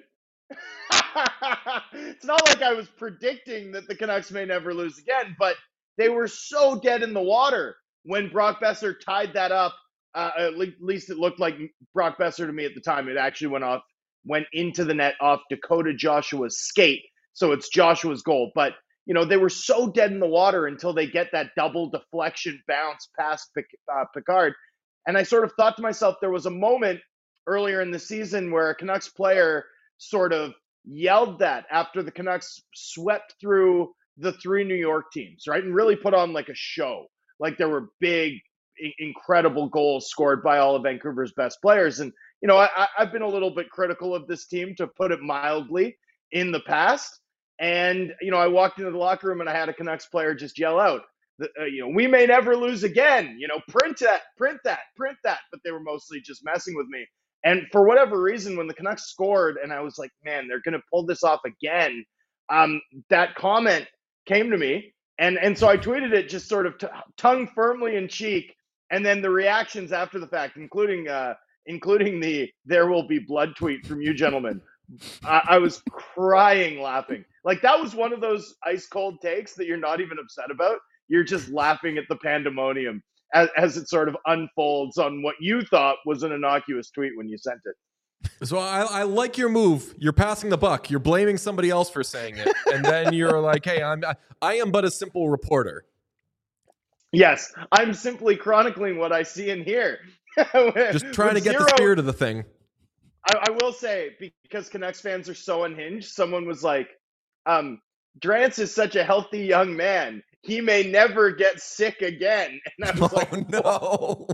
It's not like I was predicting that the Canucks may never lose again, but they were so dead in the water when Brock Besser tied that up. Uh, at least it looked like Brock Besser to me at the time. It actually went off, went into the net off Dakota Joshua's skate. So it's Joshua's goal. But, you know, they were so dead in the water until they get that double deflection bounce past uh, Pickard. And I sort of thought to myself, there was a moment earlier in the season where a Canucks player sort of yelled that after the Canucks swept through the three New York teams, right? And really put on like a show. Like there were big, I- incredible goals scored by all of Vancouver's best players. And, you know, I, I've been a little bit critical of this team, to put it mildly, in the past. And, you know, I walked into the locker room and I had a Canucks player just yell out, uh, you know, we may never lose again, you know, print that, print that, print that. But they were mostly just messing with me. And for whatever reason, when the Canucks scored and I was like, man, they're going to pull this off again, um, that comment came to me. And and so I tweeted it just sort of t- tongue firmly in cheek. And then the reactions after the fact, including uh, including the "there will be blood" tweet from you gentlemen, I, I was crying laughing. Like that was one of those ice cold takes that you're not even upset about. You're just laughing at the pandemonium as, as it sort of unfolds on what you thought was an innocuous tweet when you sent it. So I, I like your move. You're passing the buck. You're blaming somebody else for saying it, and then you're like, "Hey, I'm I, I am but a simple reporter." Yes, I'm simply chronicling what I see and hear. Just trying to get zero, the spirit of the thing. I, I will say, because Canucks fans are so unhinged, someone was like, um, Drance is such a healthy young man. He may never get sick again. And I was Oh, like, no. whoa,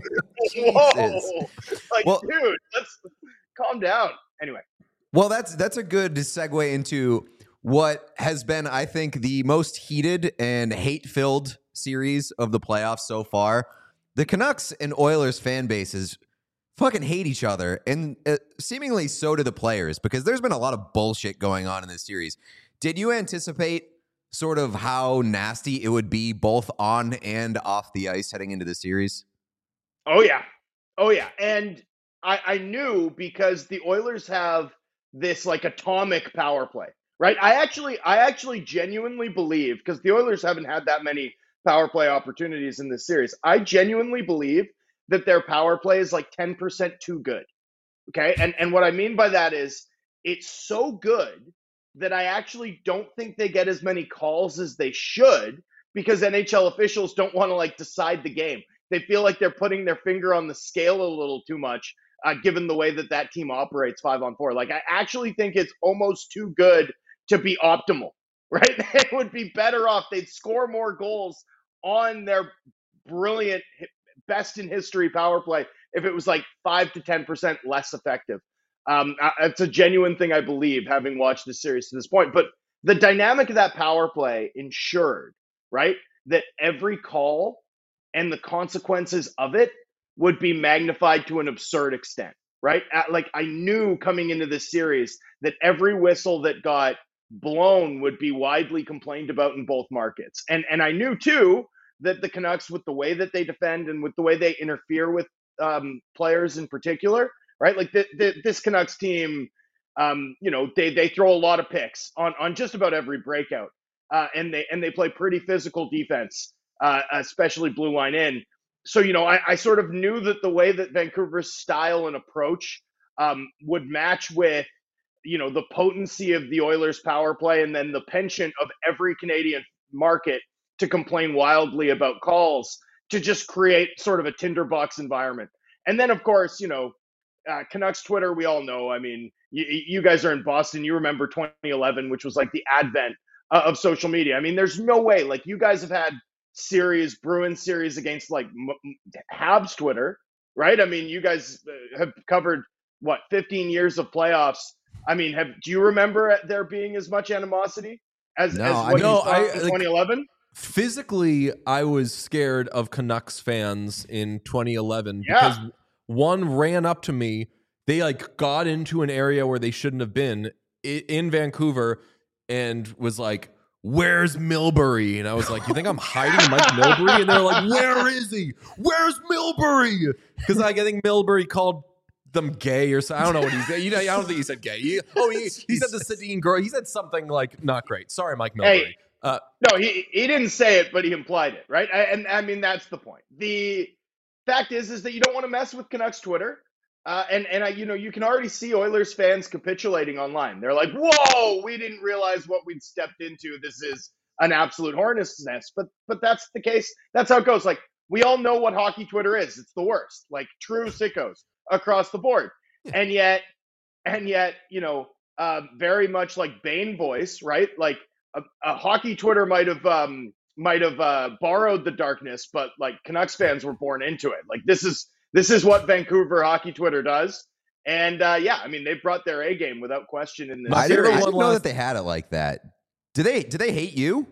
Jesus. whoa. Like, Well- dude, let's calm down. Anyway. Well, that's that's a good segue into what has been, I think, the most heated and hate-filled series of the playoffs so far. The Canucks and Oilers fan bases fucking hate each other, and uh, seemingly so do the players, because there's been a lot of bullshit going on in this series. Did you anticipate sort of how nasty it would be both on and off the ice heading into the series? Oh, yeah. Oh, yeah. And I, I knew, because the Oilers have this like atomic power play, right? I actually, I actually genuinely believe, because the Oilers haven't had that many power play opportunities in this series. I genuinely believe that their power play is like ten percent too good. Okay. And, and what I mean by that is it's so good that I actually don't think they get as many calls as they should, because N H L officials don't want to like decide the game. They feel like they're putting their finger on the scale a little too much, uh, given the way that that team operates five on four. Like, I actually think it's almost too good to be optimal, right? They would be better off. They'd score more goals on their brilliant, best in history power play if it was like five to ten percent less effective. Um, it's a genuine thing I believe, having watched this series to this point. But the dynamic of that power play ensured, right, that every call and the consequences of it would be magnified to an absurd extent, right? At, like, I knew coming into this series that every whistle that got blown would be widely complained about in both markets. And and I knew, too, that the Canucks, with the way that they defend and with the way they interfere with um, players in particular, right? Like the, the, this Canucks team, um, you know, they they throw a lot of picks on on just about every breakout, uh, and they and they play pretty physical defense, uh, especially blue line in. So, you know, I, I sort of knew that the way that Vancouver's style and approach um, would match with, you know, the potency of the Oilers' power play, and then the penchant of every Canadian market to complain wildly about calls, to just create sort of a tinderbox environment. And then, of course, you know, uh, Canucks Twitter, we all know. I mean, you, you guys are in Boston. You remember twenty eleven, which was like the advent uh, of social media. I mean, there's no way. Like, you guys have had series, Bruins series against like M- Habs Twitter, right? I mean, you guys have covered, what, fifteen years of playoffs. I mean, have do you remember there being as much animosity as, No, as I what know, you saw I- in like- twenty eleven? Physically, I was scared of Canucks fans in twenty eleven Yeah. because one ran up to me. They like got into an area where they shouldn't have been i- in Vancouver and was like, "Where's Milbury?" And I was like, "You think I'm hiding Mike Milbury?" And they're like, "Where is he? Where's Milbury?" Because like, I think Milbury called them gay or something. I don't know what he said. You know, I don't think he said gay. He, oh, he, he said the Sedin girl. He said something like not great. Sorry, Mike Milbury. Hey, Uh, no, he he didn't say it, but he implied it, right? I, and I mean, that's the point. The fact is, is that you don't want to mess with Canucks Twitter, uh, and and I, you know, you can already see Oilers fans capitulating online. They're like, "Whoa, we didn't realize what we'd stepped into. This is an absolute hornet's nest." But but that's the case. That's how it goes. Like, we all know what hockey Twitter is. It's the worst. Like, true sickos across the board. And yet, and yet, you know, uh, very much like Bane voice, right? Like, a, a hockey Twitter might have um, might have uh, borrowed the darkness, but like Canucks fans were born into it. Like, this is this is what Vancouver hockey Twitter does. And uh, yeah, I mean, they brought their A game without question in this. My I didn't, favorite I one didn't know last- that they had it like that. Do they? Do they hate you?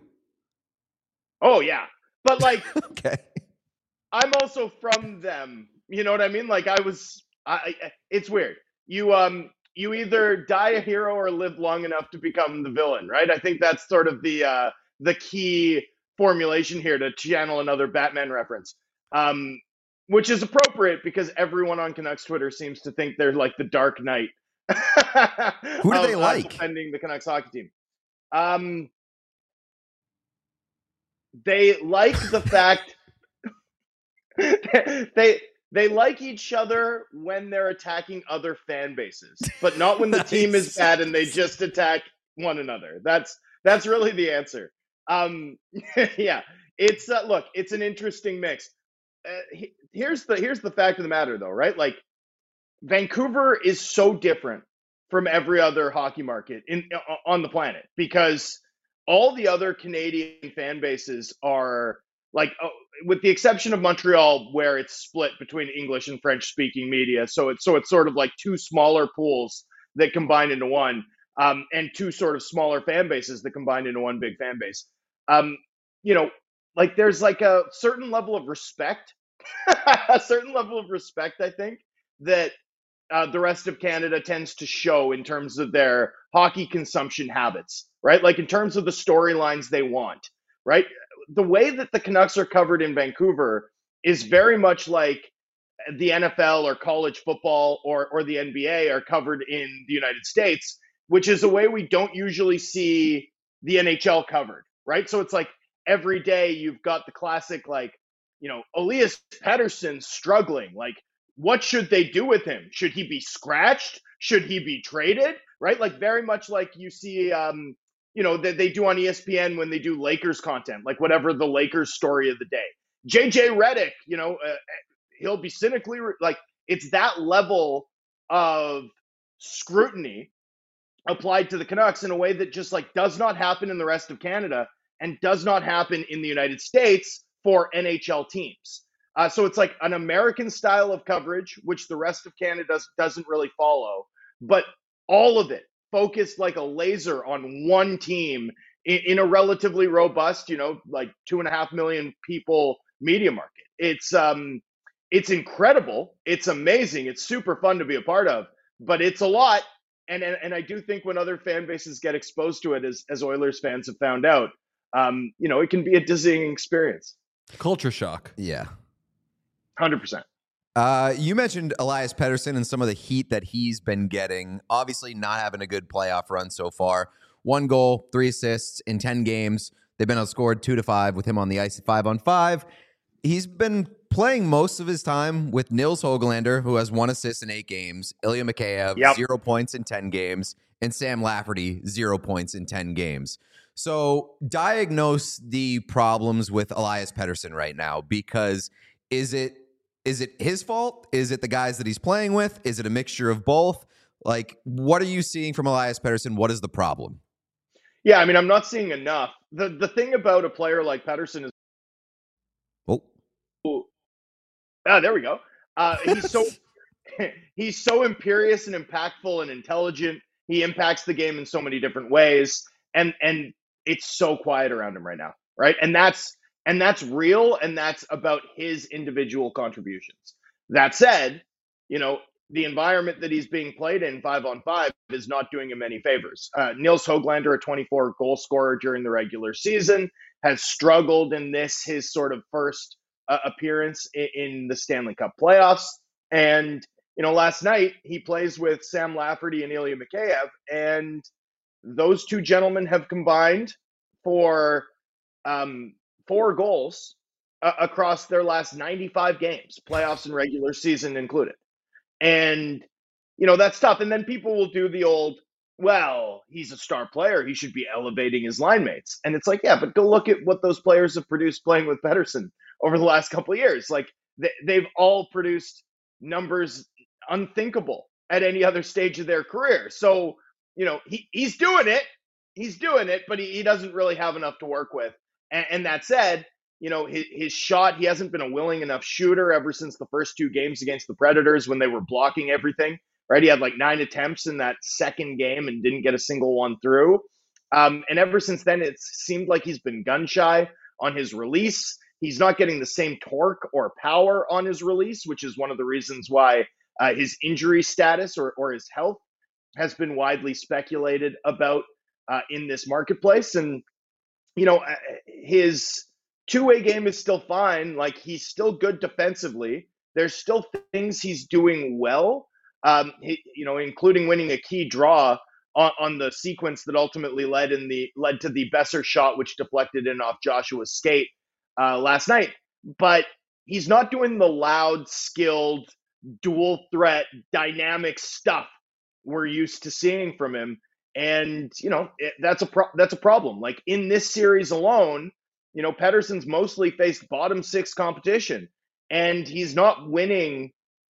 Oh yeah, but like, Okay. I'm also from them. You know what I mean? Like, I was. I. I- It's weird. You um. You either die a hero or live long enough to become the villain, right? I think that's sort of the uh, the key formulation here, to channel another Batman reference, um, which is appropriate because everyone on Canucks Twitter seems to think they're like the Dark Knight. Who do of, they uh, like? defending the Canucks hockey team? Um, they like the fact they. They like each other when they're attacking other fan bases, but not when the team is Nice. bad and they just attack one another. That's that's really the answer. Um, yeah, it's uh, look, it's an interesting mix. Uh, he- here's the here's the fact of the matter, though, right? Like, Vancouver is so different from every other hockey market in on the planet because all the other Canadian fan bases are like, uh, with the exception of Montreal, where it's split between English and French speaking media. So it's so it's sort of like two smaller pools that combine into one, um, and two sort of smaller fan bases that combine into one big fan base. Um, you know, like there's like a certain level of respect, a certain level of respect, I think, that uh, the rest of Canada tends to show in terms of their hockey consumption habits, right? Like in terms of the storylines they want, right? The way that the Canucks are covered in Vancouver is very much like the N F L or college football or, or the N B A are covered in the United States, which is a way we don't usually see the N H L covered, right? So it's like every day you've got the classic, like, you know, Elias Pettersson struggling. Like, what should they do with him? Should he be scratched? Should he be traded? Right? Like very much like you see, um, you know, that they do on E S P N when they do Lakers content, like whatever the Lakers story of the day. J J Redick, you know, uh, he'll be cynically re- like it's that level of scrutiny applied to the Canucks in a way that just like does not happen in the rest of Canada and does not happen in the United States for N H L teams. Uh, so it's like an American style of coverage, which the rest of Canada does, doesn't really follow, but all of it focused like a laser on one team in, in a relatively robust, you know, like two and a half million people media market. It's um, it's incredible. It's amazing. It's super fun to be a part of, but it's a lot. And and, and I do think when other fan bases get exposed to it, as as Oilers fans have found out, um, you know, it can be a dizzying experience. Culture shock. Yeah. one hundred percent. Uh, you mentioned Elias Pettersson and some of the heat that he's been getting. Obviously, not having a good playoff run so far. One goal, three assists in ten games. They've been outscored two to five with him on the ice at five on five. He's been playing most of his time with Nils Hoglander, who has one assist in eight games. Ilya Mikheyev, Yep. zero points in ten games. And Sam Lafferty, zero points in ten games. So diagnose the problems with Elias Pettersson right now, because is it Is it his fault? Is it the guys that he's playing with? Is it a mixture of both? Like, what are you seeing from Elias Pettersson? What is the problem? Yeah, I mean, I'm not seeing enough. The the thing about a player like Pettersson is, Oh, ah, there we go. Uh, he's so he's so imperious and impactful and intelligent. He impacts the game in so many different ways, and and it's so quiet around him right now, right? And that's and that's real, and that's about his individual contributions. That said, you know, the environment that he's being played in five on five is not doing him any favors. Uh, Nils Hoglander, a twenty-four goal scorer during the regular season, has struggled in this, his sort of first uh, appearance in, in the Stanley Cup playoffs. And, you know, last night he plays with Sam Lafferty and Ilya Mikheyev, and those two gentlemen have combined for um, four goals uh, across their last ninety-five games, playoffs and regular season included. And, you know, that's tough. And then people will do the old, well, he's a star player, he should be elevating his line mates. And it's like, yeah, but go look at what those players have produced playing with Pettersson over the last couple of years. Like, they, they've all produced numbers unthinkable at any other stage of their career. So, you know, he, he's doing it. He's doing it, but he, he doesn't really have enough to work with. And, and that said, you know, his, his shot, he hasn't been a willing enough shooter ever since the first two games against the Predators when they were blocking everything, right? He had like nine attempts in that second game and didn't get a single one through. Um, and ever since then, it seemed like he's been gun shy on his release. He's not getting the same torque or power on his release, which is one of the reasons why uh, his injury status or, or his health has been widely speculated about uh, in this marketplace. And, you know, his two-way game is still fine. Like, he's still good defensively. There's still things he's doing well, um, he, you know, including winning a key draw on, on the sequence that ultimately led in the led to the Besser shot, which deflected in off Joshua's skate uh, last night. But he's not doing the loud, skilled, dual threat, dynamic stuff we're used to seeing from him. And, you know, it, that's a pro- that's a problem. Like, in this series alone, you know, Pettersson's mostly faced bottom six competition, and he's not winning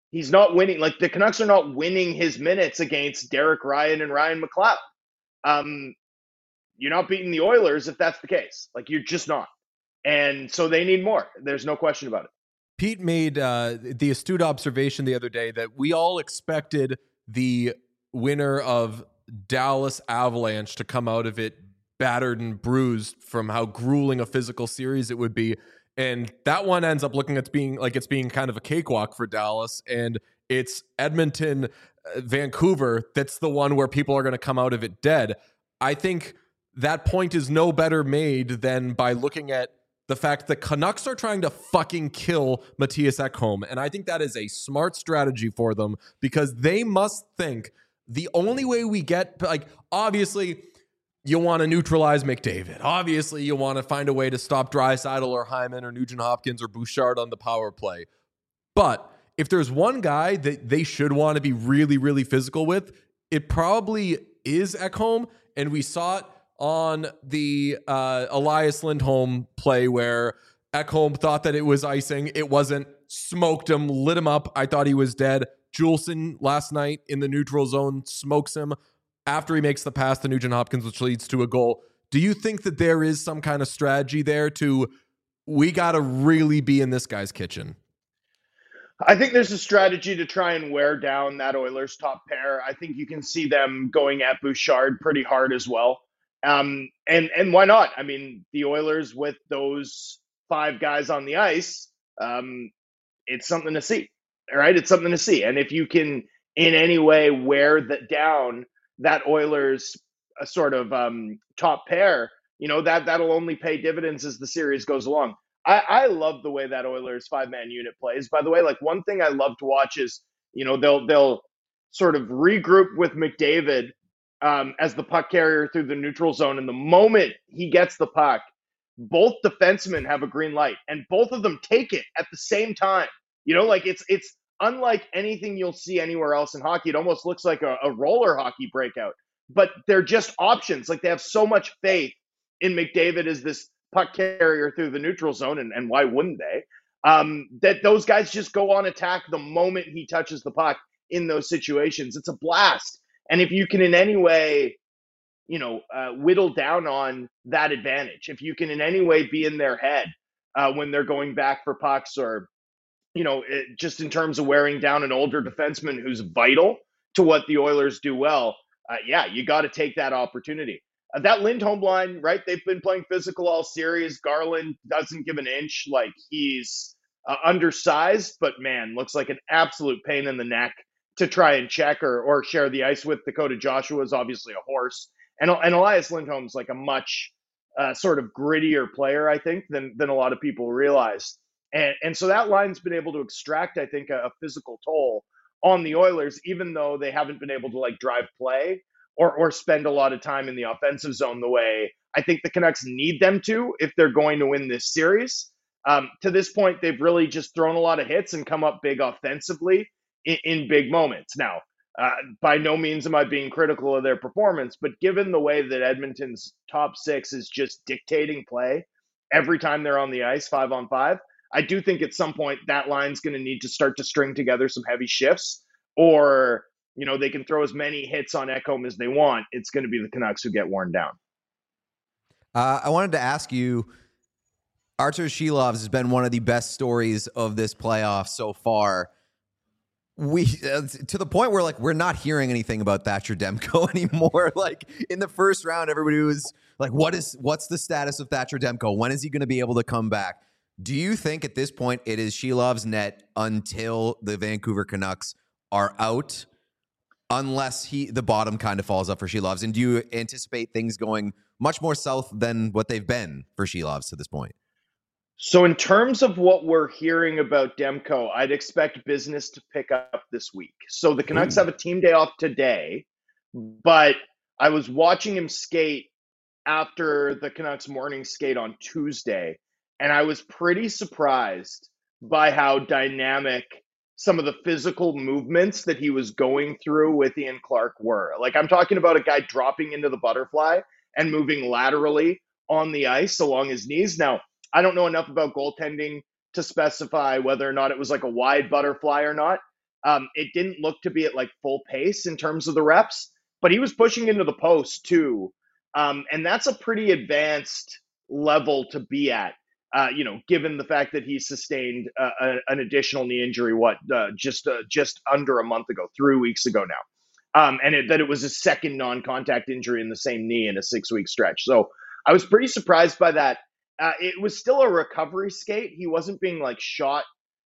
He's not winning. Like the Canucks are not winning his minutes against Derek Ryan and Ryan McLeod. Um, you're not beating the Oilers if that's the case. Like you're just not. And so they need more. There's no question about it. Pete made uh, the astute observation the other day that we all expected the winner of Dallas Avalanche to come out of it battered and bruised from how grueling a physical series it would be. And that one ends up looking at being like it's being kind of a cakewalk for Dallas. And it's Edmonton, uh, Vancouver. That's the one where people are going to come out of it dead. I think that point is no better made than by looking at the fact that Canucks are trying to fucking kill Matthias Ekholm. And I think that is a smart strategy for them because they must think the only way we get, like, obviously, you want to neutralize McDavid. Obviously, you want to find a way to stop Draisaitl or Hyman or Nugent Hopkins or Bouchard on the power play. But if there's one guy that they should want to be really, really physical with, it probably is Ekholm. And we saw it on the uh, Elias Lindholm play where Ekholm thought that it was icing. It wasn't. Smoked him, lit him up. I thought he was dead. Juleson last night in the neutral zone smokes him after he makes the pass to Nugent Hopkins, which leads to a goal. Do you think that there is some kind of strategy there to, we got to really be in this guy's kitchen? I think there's a strategy to try and wear down that Oilers top pair. I think you can see them going at Bouchard pretty hard as well. Um, and, and why not? I mean, the Oilers with those five guys on the ice, um, it's something to see, all right? It's something to see. And if you can in any way wear that down, that Oilers uh, sort of um, top pair, you know, that, that'll only pay dividends as the series goes along. I, I love the way that Oilers five-man unit plays. By the way, like one thing I love to watch is, you know, they'll they'll sort of regroup with McDavid um, as the puck carrier through the neutral zone. And the moment he gets the puck, both defensemen have a green light, and both of them take it at the same time. You know, like it's it's unlike anything you'll see anywhere else in hockey. It almost looks like a, a roller hockey breakout, but they're just options. Like they have so much faith in McDavid as this puck carrier through the neutral zone, and, and why wouldn't they? Um, that those guys just go on attack the moment he touches the puck in those situations. It's a blast. And if you can in any way, you know, uh, whittle down on that advantage, if you can in any way be in their head uh, when they're going back for pucks, or, you know, it, just in terms of wearing down an older defenseman who's vital to what the Oilers do well, uh, yeah, you got to take that opportunity. Uh, that Lindholm line, right? They've been playing physical all series. Garland doesn't give an inch. Like he's uh, undersized, but man, looks like an absolute pain in the neck to try and check or or share the ice with. Dakota Joshua is obviously a horse, and and Elias Lindholm's like a much uh, sort of grittier player, I think, than than a lot of people realize. And and so that line's been able to extract, I think, a, a physical toll on the Oilers, even though they haven't been able to like drive play or or spend a lot of time in the offensive zone the way I think the Canucks need them to if they're going to win this series. Um, to this point, they've really just thrown a lot of hits and come up big offensively in, in big moments. Now, uh, by no means am I being critical of their performance, but given the way that Edmonton's top six is just dictating play every time they're on the ice, five on five, I do think at some point that line's going to need to start to string together some heavy shifts, or, you know, they can throw as many hits on Ekholm as they want. It's going to be the Canucks who get worn down. Uh, I wanted to ask you, Artur Shilovs has been one of the best stories of this playoff so far. We uh, to the point where like we're not hearing anything about Thatcher Demko anymore. Like in the first round, everybody was like, "What is what's the status of Thatcher Demko? When is he going to be able to come back?" Do you think at this point it is Shilov's net until the Vancouver Canucks are out, unless he the bottom kind of falls up for Shilovs? And do you anticipate things going much more south than what they've been for Shilovs to this point? So in terms of what we're hearing about Demko, I'd expect business to pick up this week. So the Canucks Ooh. have a team day off today, but I was watching him skate after the Canucks morning skate on Tuesday, and I was pretty surprised by how dynamic some of the physical movements that he was going through with Ian Clark were. Like I'm talking about a guy dropping into the butterfly and moving laterally on the ice along his knees. Now, I don't know enough about goaltending to specify whether or not it was like a wide butterfly or not. Um, it didn't look to be at like full pace in terms of the reps, but he was pushing into the post too. Um, and that's a pretty advanced level to be at, uh, you know, given the fact that he sustained uh, a, an additional knee injury, what, uh, just uh, just under a month ago, three weeks ago now. Um, and it, that it was a second non-contact injury in the same knee in a six-week stretch. So I was pretty surprised by that. Uh, it was still a recovery skate. He wasn't being like shot.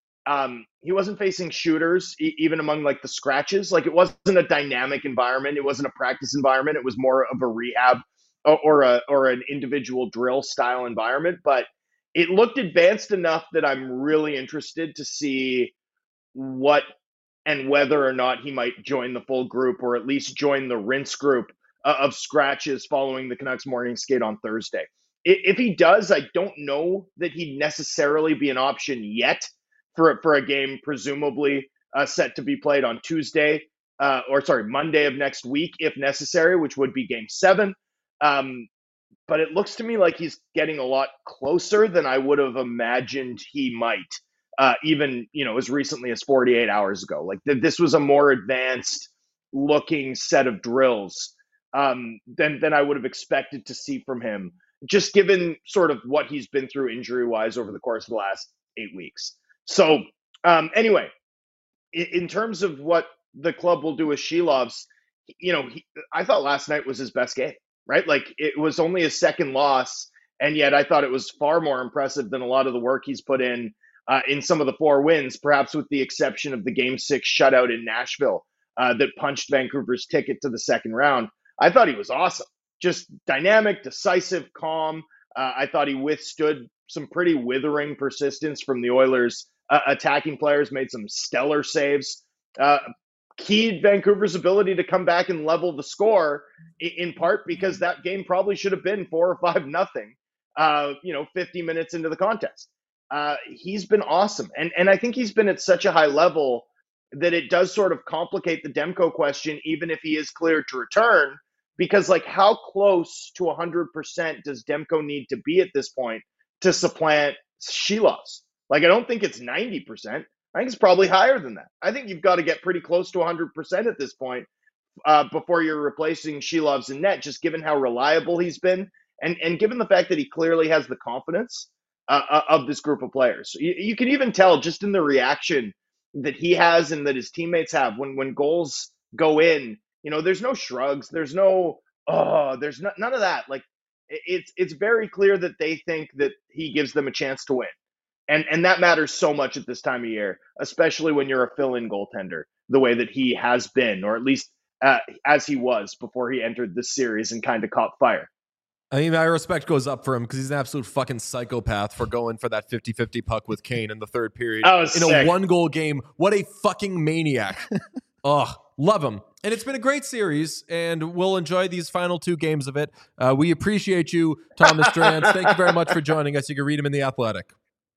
Um, he wasn't facing shooters, e- even among like the scratches. Like it wasn't a dynamic environment. It wasn't a practice environment. It was more of a rehab or, or a or an individual drill style environment. But it looked advanced enough that I'm really interested to see what and whether or not he might join the full group or at least join the rinse group uh, of scratches following the Canucks morning skate on Thursday. If he does, I don't know that he'd necessarily be an option yet for, for a game presumably uh, set to be played on Tuesday, uh, or sorry, Monday of next week, if necessary, which would be game seven. Um, but it looks to me like he's getting a lot closer than I would have imagined he might, uh, even, you know, as recently as forty-eight hours ago. Like th- this was a more advanced looking set of drills um, than, than I would have expected to see from him, just given sort of what he's been through injury-wise over the course of the last eight weeks. So um, anyway, in, in terms of what the club will do with Shilovs, you know, he, I thought last night was his best game, right? Like it was only his second loss, and yet I thought it was far more impressive than a lot of the work he's put in uh, in some of the four wins, perhaps with the exception of the game six shutout in Nashville uh, that punched Vancouver's ticket to the second round. I thought he was awesome. Just dynamic, decisive, calm. Uh, I thought he withstood some pretty withering persistence from the Oilers. Uh, attacking players made some stellar saves. Uh, keyed Vancouver's ability to come back and level the score, in part because that game probably should have been four or five nothing. Uh, you know, fifty minutes into the contest. Uh, he's been awesome, and and I think he's been at such a high level that it does sort of complicate the Demko question, even if he is cleared to return. Because, like, how close to one hundred percent does Demko need to be at this point to supplant Shilovs? Like, I don't think it's ninety percent. I think it's probably higher than that. I think you've got to get pretty close to one hundred percent at this point uh, before you're replacing Shilovs in net, just given how reliable he's been and, and given the fact that he clearly has the confidence uh, of this group of players. You, you can even tell just in the reaction that he has and that his teammates have when, when goals go in. You know, there's no shrugs. There's no, oh, there's no, none of that. Like, it's it's very clear that they think that he gives them a chance to win. And and that matters so much at this time of year, especially when you're a fill-in goaltender, the way that he has been, or at least uh, as he was before he entered this series and kind of caught fire. I mean, my respect goes up for him because he's an absolute fucking psychopath for going for that fifty-fifty puck with Kane in the third period in sick. a one-goal game. What a fucking maniac. Ugh, love him. And it's been a great series, and we'll enjoy these final two games of it. Uh, we appreciate you, Thomas Drance. Thank you very much for joining us. You can read him in The Athletic.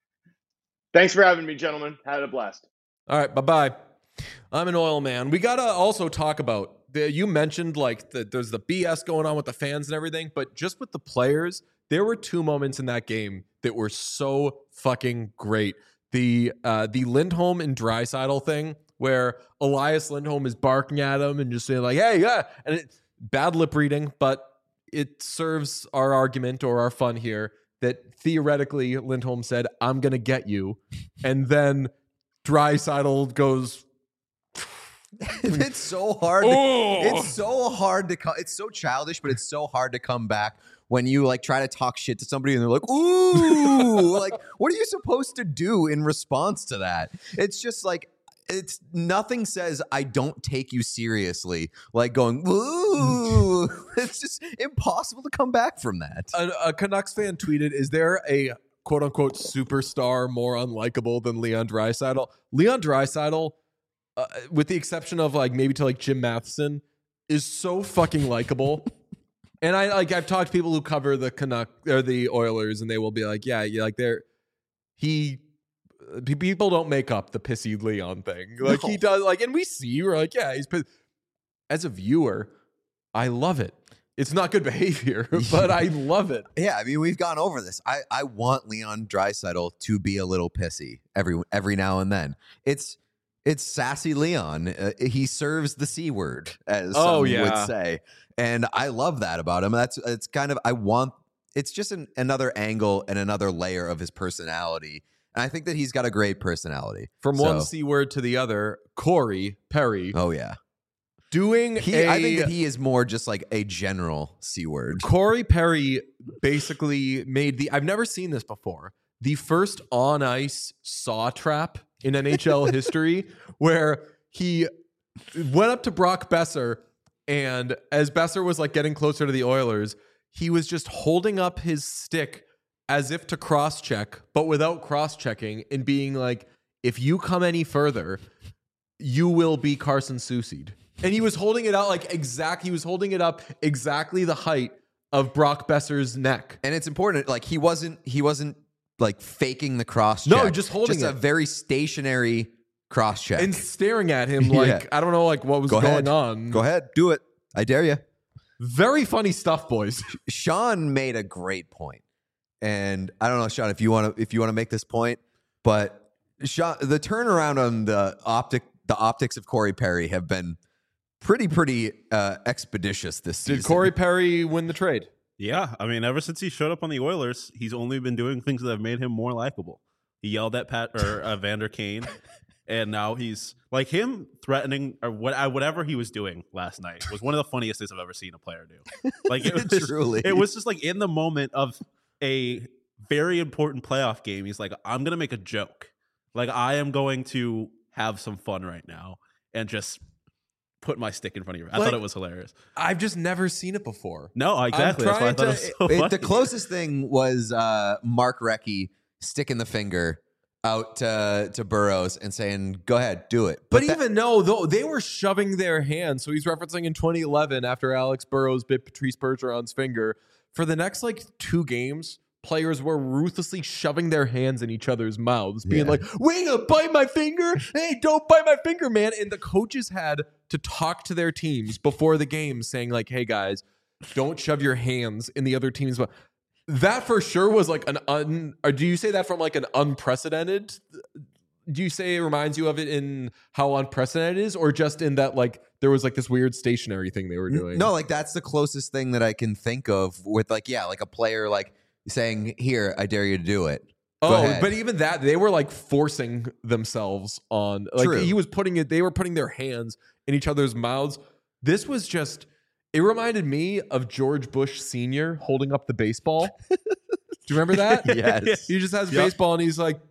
Thanks for having me, gentlemen. Had a blast. All right, bye-bye. I'm an oil man. We got to also talk about, the, you mentioned like the, there's the B S going on with the fans and everything, but just with the players, there were two moments in that game that were so fucking great. The uh, the Lindholm and Draisaitl thing, where Elias Lindholm is barking at him and just saying like, hey, yeah, and it, bad lip reading, but it serves our argument or our fun here that theoretically Lindholm said, I'm going to get you. And then Draisaitl goes, it's so hard. To, it's so hard to, co- it's so childish, but it's so hard to come back when you like try to talk shit to somebody and they're like, ooh, like, what are you supposed to do in response to that? It's just like, it's nothing says I don't take you seriously like going, ooh. It's just impossible to come back from that. A, a Canucks fan tweeted, is there a quote unquote superstar more unlikable than Leon Draisaitl? Leon Draisaitl, uh, with the exception of like maybe to like Jim Matheson, is so fucking likable. And I like I've talked to people who cover the Canuck or the Oilers, and they will be like, yeah, yeah, like they're he people don't make up the pissy Leon thing. Like no. He does, like, and we see, we're like, yeah, he's pissed. As a viewer, I love it. It's not good behavior, but I love it. Yeah, I mean, we've gone over this. I, I want Leon Draisaitl to be a little pissy every every now and then. It's It's Sassy Leon. Uh, he serves the C word, as Oh, some yeah. would say. And I love that about him. That's it's kind of I want it's just an, another angle and another layer of his personality. And I think that he's got a great personality. From So- one C word to the other, Corey Perry Oh yeah. doing He a I think that he is more just like a general C word. Corey Perry basically made the I've never seen this before. The first on ice saw trap in N H L history, where he went up to Brock Besser, and as Besser was like getting closer to the Oilers, he was just holding up his stick as if to cross check, but without cross checking, and being like, if you come any further, you will be Carson Soucy'd. And he was holding it out like exact, he was holding it up exactly the height of Brock Besser's neck. And it's important, like he wasn't he wasn't like faking the cross No, check. just holding just it. a very stationary cross check. And staring at him like, Yeah. I don't know, like what was Go going ahead. on. Go ahead, do it. I dare you. Very funny stuff, boys. Sean made a great point. And I don't know, Sean, if you want to if you want to make this point, but Sean, the turnaround on the optic the optics of Corey Perry have been pretty pretty uh, expeditious this season. Did Corey Perry win the trade? Yeah, I mean, ever since he showed up on the Oilers, he's only been doing things that have made him more likable. He yelled at Pat or uh, Vander Kane, and now he's like him threatening or what I, whatever he was doing last night was one of the funniest things I've ever seen a player do. Like it was just, Truly. it was just like in the moment of a very important playoff game. He's like, I'm gonna make a joke. Like I am going to have some fun right now and just put my stick in front of you. I Like- thought it was hilarious. I've just never seen it before. No, exactly. That's why I trying thought it was to- so It- funny. the closest thing was uh, Mark Recchi sticking the finger out to, to Burrows and saying, "Go ahead, do it." But, that- even no, though they were shoving their hands. So he's referencing in twenty eleven after Alex Burrows bit Patrice Bergeron's finger. For the next like two games, players were ruthlessly shoving their hands in each other's mouths, being Yeah. like, "Wait, uh, bite my finger! Hey, don't bite my finger, man!" And the coaches had to talk to their teams before the game, saying like, "Hey guys, don't shove your hands in the other team's mouth." That for sure was like an un. Or do you say that from like an unprecedented? Do you say it reminds you of it in how unprecedented it is, or just in that like there was like this weird stationary thing they were doing? no, like that's the closest thing that I can think of with like yeah, like a player like saying, "Here, I dare you to do it." Go Oh, ahead. but even that they were like forcing themselves on. Like True. he was putting it. They were putting their hands in each other's mouths. This was just. It reminded me of George Bush Senior holding up the baseball. Do you remember that? Yes. He just has Yep. baseball and he's like,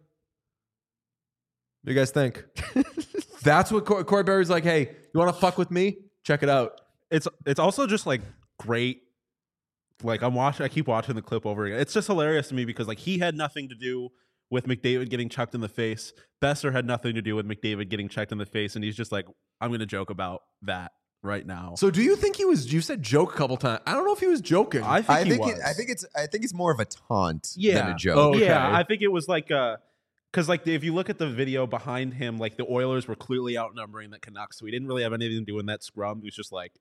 "What do you guys think?" That's what Cor- Corey Berry's like. Hey, you want to fuck with me? Check it out. it's it's also just like great. Like I'm watching, I keep watching the clip over again. It's just hilarious to me because like he had nothing to do with McDavid getting chucked in the face. Besser had nothing to do with McDavid getting checked in the face, and he's just like, I'm going to joke about that right now. So, do you think he was? You said joke a couple times. I don't know if he was joking. I think I he think was. it, I think it's I think it's more of a taunt than Yeah. a joke. Oh, okay. Yeah, I think it was like uh because like if you look at the video behind him, like the Oilers were clearly outnumbering the Canucks, so he didn't really have anything to do in that scrum. He was just like,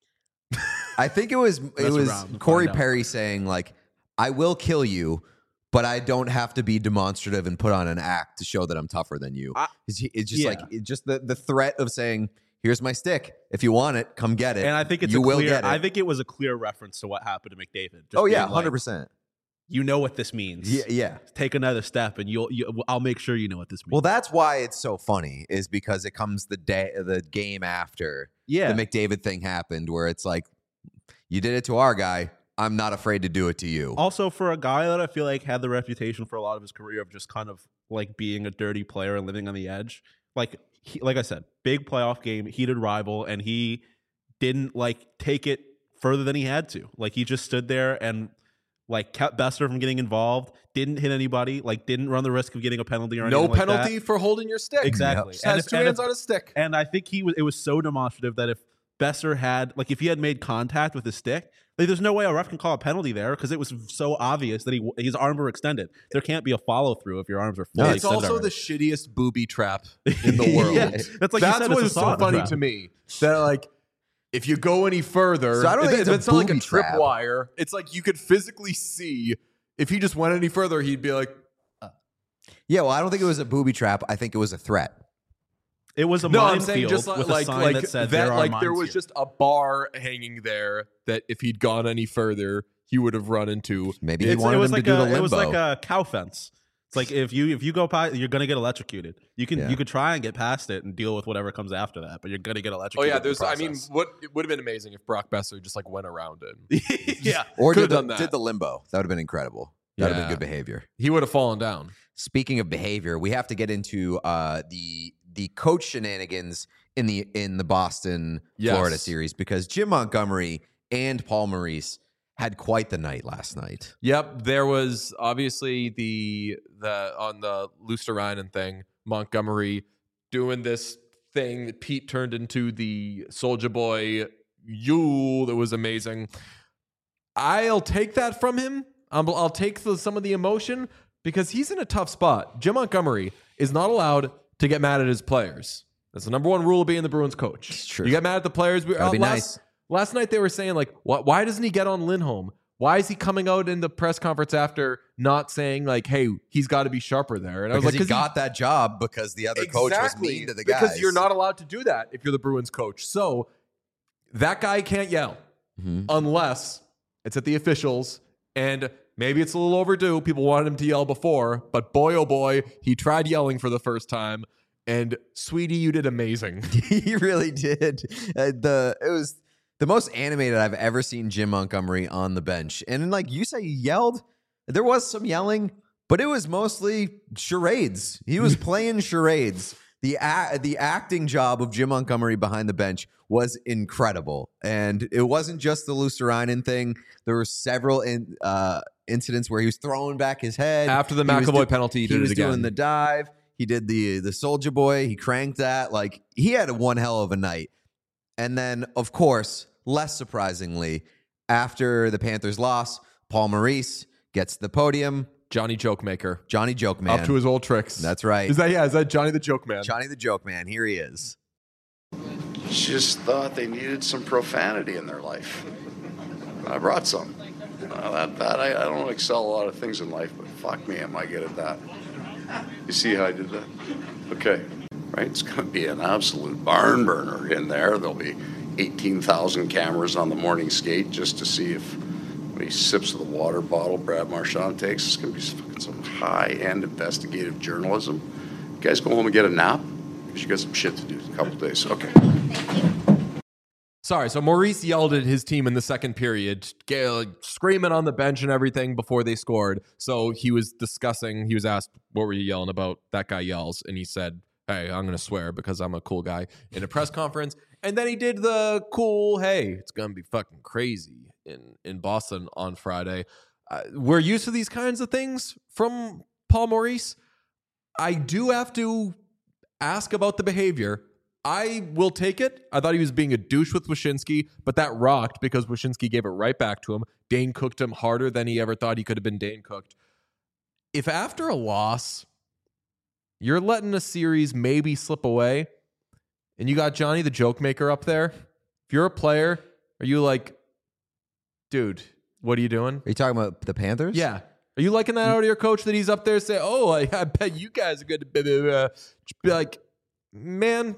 I think it was it Mess was around and Corey find out. Perry saying like, "I will kill you, but I don't have to be demonstrative and put on an act to show that I'm tougher than you." I- it's, he- it's just yeah. like it just the the threat of saying, "Here's my stick. If you want it, come get it." and I think it's you a will clear, get it. I think it was a clear reference to what happened to McDavid. Just oh yeah, being like, hundred percent. You know what this means. Yeah, yeah. Take another step, and you'll. You, I'll make sure you know what this means. Well, that's why it's so funny, is because it comes the day, the game after yeah, the McDavid thing happened, where it's like, you did it to our guy. I'm not afraid to do it to you. Also, for a guy that I feel like had the reputation for a lot of his career of just kind of like being a dirty player and living on the edge, like he, like I said, big playoff game, heated rival, and he didn't like take it further than he had to. Like he just stood there and like kept Besser from getting involved, didn't hit anybody, like didn't run the risk of getting a penalty or anything no like penalty that. for holding your stick. Exactly. Just And has if- two and hands if- on a stick. And I think he was. It was so demonstrative that if Besser had, like, if he had made contact with his stick, like, there's no way a ref can call a penalty there because it was so obvious that he his arms were extended. There can't be a follow through if your arms are fully No, It's extended. also the already. shittiest booby trap in the world. Yeah. That's like you That's said, what it's is a so sauna funny trap. to me. That like, if you go any further, So I don't think it- it's a it's not like a booby trap. tripwire. It's like you could physically see if he just went any further, he'd be like, Yeah, well, I don't think it was a booby trap. I think it was a threat. It was a No, I'm minefield saying just like with like, a sign like that said that, there are like mines there was here. just a bar hanging there that if he'd gone any further, he would have run into. Maybe he It's- wanted it was him like to do a, the limbo. It was like a cow fence. It's like if you if you go by, you're gonna get electrocuted. You can Yeah. you could try and get past it and deal with whatever comes after that, but you're gonna get Oh electrocuted. yeah, in the there's. I mean, process. what it would have been amazing if Brock Besser just like went around it. yeah. or could've did the, done that. did the limbo. That would have been incredible. That would have Yeah. been good behavior. He would have fallen down. Speaking of behavior, we have to get into uh, the the coach shenanigans in the in the Boston Yes. Florida series because Jim Montgomery and Paul Maurice had quite the night last night. Yep, there was obviously the the on the Luosterainen thing, Montgomery doing this thing that Pete turned into the Soldier Boy Yule that was amazing. I'll take that from him. Um, I'll take the, some of the emotion because he's in a tough spot. Jim Montgomery is not allowed to get mad at his players. That's the number one rule of being the Bruins coach. It's true. You get mad at the players. We, Gotta uh, be last, nice. Last night they were saying like, why, why doesn't he get on Lindholm? Why is he coming out in the press conference after not saying like, hey, he's got to be sharper there? And I was Because like, he got that job because the other coach was mean to the guys. because you're not allowed to do that if you're the Bruins coach. So that guy can't yell Mhm. unless it's at the officials. And maybe it's a little overdue. People wanted him to yell before, but boy, oh boy, he tried yelling for the first time. And sweetie, you did amazing. He really did. Uh, the it was the most animated I've ever seen Jim Montgomery on the bench. And like you say, he yelled. There was some yelling, but it was mostly charades. He was playing charades. The a- the acting job of Jim Montgomery behind the bench was incredible, and it wasn't just the Luosterainen thing. There were several in, uh, incidents where he was throwing back his head After the He was McAvoy do- penalty, he He did was it again. doing the dive. He did the the Soldier Boy. He cranked that. Like he had a one hell of a night. And then, of course, less surprisingly, after the Panthers loss, Paul Maurice gets the podium. Johnny Joke Maker. Johnny Joke Man. Up to his old tricks. That's right. Is that yeah? Is that Johnny the Joke Man? Johnny the Joke Man. Here he is. Just thought they needed some profanity in their life. I brought some. Uh, that, that I, I don't excel a lot of things in life, but fuck me, am I good at that? You see how I did that? Okay, right? It's going to be an absolute barn burner in there. There'll be eighteen thousand cameras on the morning skate just to see if when he sips of the water bottle Brad Marchand takes. It's going to be some, some high-end investigative journalism. You guys go home and get a nap because you got some shit to do in a couple days. Okay. Sorry, so Maurice yelled at his team in the second period, g- like, screaming on the bench and everything before they scored. So he was discussing, he was asked, what were you yelling about? That guy yells. And he said, hey, I'm going to swear because I'm a cool guy in a press conference. And then he did the cool, hey, it's going to be fucking crazy in, in Boston on Friday. Uh, we're used to these kinds of things from Paul Maurice. I do have to ask about the behavior. I will take it. I thought he was being a douche with Wyshynski, but that rocked because Wyshynski gave it right back to him. Dane cooked him harder than he ever thought he could have been Dane cooked. If after a loss, you're letting a series maybe slip away, and you got Johnny the Joke Maker up there, if you're a player, are you like, dude, what are you doing? Are you talking about the Panthers? Yeah. Are you liking that out of your coach that he's up there saying, oh, I, I bet you guys are going to be uh, be like, man,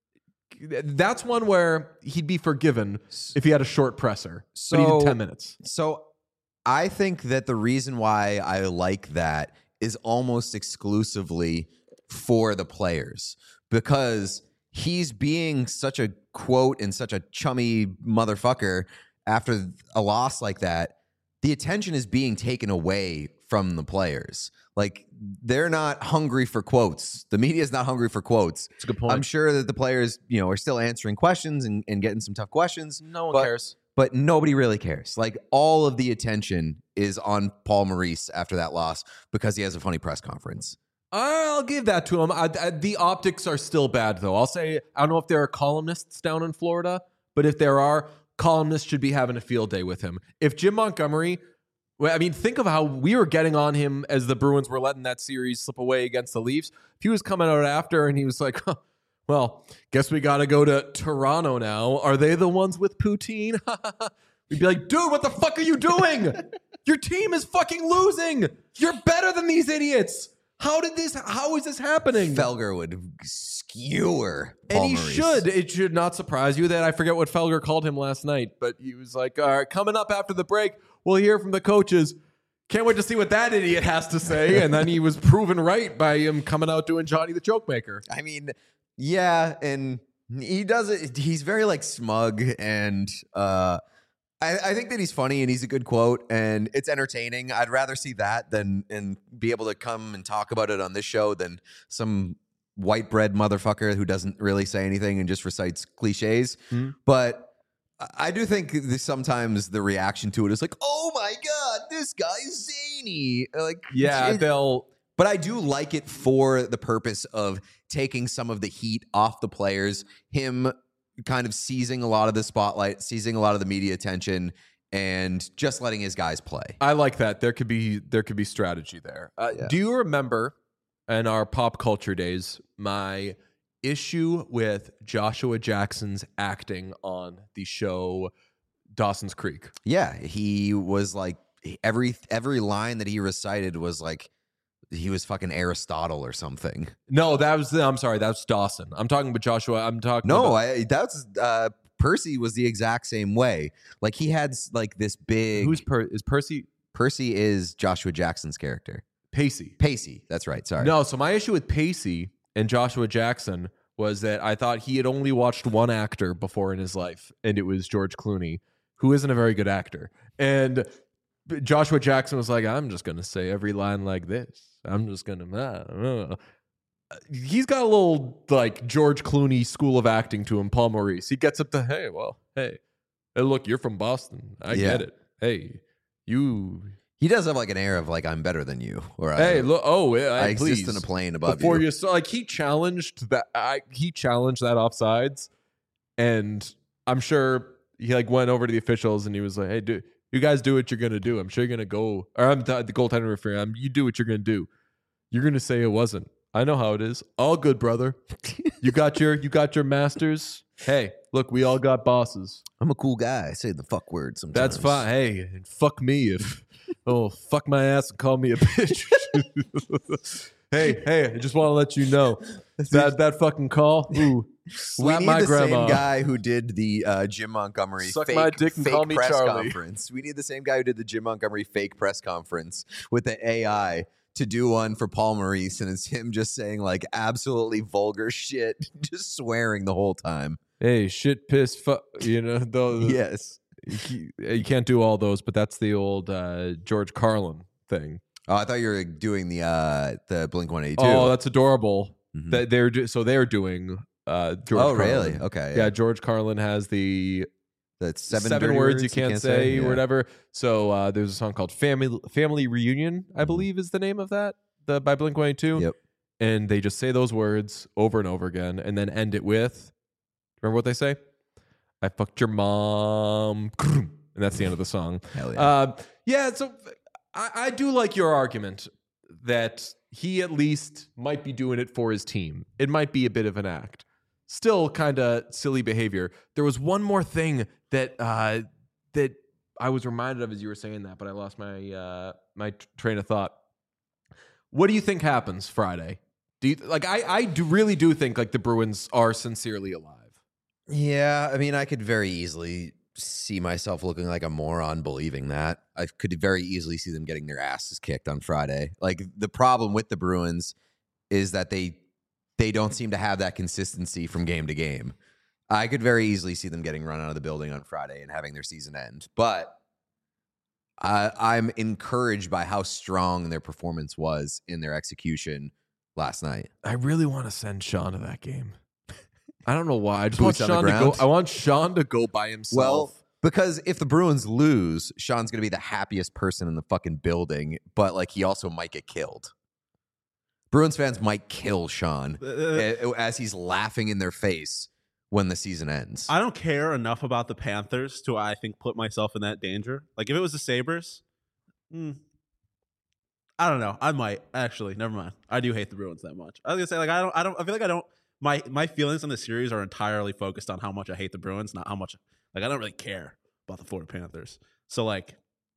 that's one where he'd be forgiven if he had a short presser. So, but he did ten minutes. So I think that the reason why I like that is almost exclusively for the players because he's being such a quote and such a chummy motherfucker after a loss like that. The attention is being taken away from the players. Like they're not hungry for quotes. The media is not hungry for quotes. That's a good point. I'm sure that the players, you know, are still answering questions and, and getting some tough questions. No one but, cares. But nobody really cares. Like all of the attention is on Paul Maurice after that loss because he has a funny press conference. I'll give that to him. I, I, the optics are still bad, though. I'll say, I don't know if there are columnists down in Florida, but if there are, columnists should be having a field day with him. If Jim Montgomery, well, I mean, think of how we were getting on him as the Bruins were letting that series slip away against the Leafs. If he was coming out after and he was like, huh, well, guess we got to go to Toronto now. Are they the ones with poutine? We'd be like, dude, what the fuck are you doing? Your team is fucking losing. You're better than these idiots. How did this, how is this happening? Felger would skewer. And Paul he Maurice. should. It should not surprise you that I forget what Felger called him last night, but he was like, all right, coming up after the break, we'll hear from the coaches. Can't wait to see what that idiot has to say. And then he was proven right by him coming out doing Johnny the Joke Maker. I mean, yeah, and he does it. He's very like smug, and uh, I, I think that he's funny and he's a good quote, and it's entertaining. I'd rather see that than and be able to come and talk about it on this show than some white bread motherfucker who doesn't really say anything and just recites cliches. Hmm. But I do think that sometimes the reaction to it is like, "Oh my god, this guy's zany!" Like, Yeah, it- they'll. but I do like it for the purpose of taking some of the heat off the players, him kind of seizing a lot of the spotlight, seizing a lot of the media attention, and just letting his guys play. I like that. There could be there could be strategy there. Uh, Yeah. Do you remember in our pop culture days my issue with Joshua Jackson's acting on the show Dawson's Creek? Yeah, he was like every every line that he recited was like he was fucking Aristotle or something. No, that was I'm sorry, that's Dawson. I'm talking about Joshua. I'm talking No, about, I, that's uh, Percy was the exact same way. Like he had like this big. who's per, is Percy Percy is Joshua Jackson's character. Pacey? Pacey, that's right. Sorry. No, so my issue with Pacey and Joshua Jackson was that I thought he had only watched one actor before in his life, and it was George Clooney, who isn't a very good actor. And Joshua Jackson was like, I'm just going to say every line like this. I'm just going to... He's got a little, like, George Clooney school of acting to him, Paul Maurice. He gets up to, hey, well, hey, hey, look, you're from Boston. I Yeah. get it. Hey, you... He does have like an air of like I'm better than you, or Hey, I, look, oh, I I, exist please. in a plane above Before you. you saw, like he challenged that, I he challenged that offsides, and I'm sure he like went over to the officials and he was like, "Hey, dude, you guys do what you're gonna do. I'm sure you're gonna go." Or I'm the, the goaltender referee. I'm, you do what you're gonna do. You're gonna say it wasn't. I know how it is. All good, brother. You got your you got your masters. Hey, look, we all got bosses. I'm a cool guy. I say the fuck word sometimes. That's fine. Hey, and fuck me if oh fuck my ass and call me a bitch. hey, hey, I just want to let you know that that fucking call. Ooh, We slap need my the grandma. same guy who did the uh, Jim Montgomery Suck fake, my dick and fake call me press Charlie. conference. We need the same guy who did the Jim Montgomery fake press conference with the A I to do one for Paul Maurice, and it's him just saying like absolutely vulgar shit, just swearing the whole time. Hey, shit, piss, fuck. You know, those, Yes. you, you can't do all those, but that's the old uh, George Carlin thing. Oh, I thought you were doing the uh, the Blink one eighty-two. Oh, that's adorable. Mhm. That they're do- so they're doing. Uh, George oh, Carlin. really? Okay. Yeah. George Carlin has the That's seven, seven, dirty words, you can't, say, Yeah. or whatever. So uh, there's a song called "Family Family Reunion," I Mhm. believe is the name of that. The by Blink one eighty-two. Yep. And they just say those words over and over again, and then end it with. Remember what they say? I fucked your mom, and that's the end of the song. Hell yeah. Uh, yeah, so I, I do like your argument that he at least might be doing it for his team. It might be a bit of an act. Still kind of silly behavior. There was one more thing that uh, that I was reminded of as you were saying that, but I lost my uh, my t- train of thought. What do you think happens Friday? Do you like? I I do really do think like the Bruins are sincerely alive. Yeah, I mean, I could very easily see myself looking like a moron believing that. I could very easily see them getting their asses kicked on Friday. Like the problem with the Bruins is that they they don't seem to have that consistency from game to game. I could very easily see them getting run out of the building on Friday and having their season end. But I, I'm encouraged by how strong their performance was in their execution last night. I really want to send Sean to that game. I don't know why. I just want Boots on the Sean to go. ground? I want Sean to go by himself. Well, because if the Bruins lose, Sean's going to be the happiest person in the fucking building, but like he also might get killed. Bruins fans might kill Sean Uh, a- as he's laughing in their face when the season ends. I don't care enough about the Panthers to, I think, put myself in that danger. Like, if it was the Sabres, mm, I don't know. I might actually. Never mind. I do hate the Bruins that much. I was gonna say, like, I don't. I don't. I feel like I don't. My my feelings on the series are entirely focused on how much I hate the Bruins, not how much. Like, I don't really care about the Florida Panthers. So, like,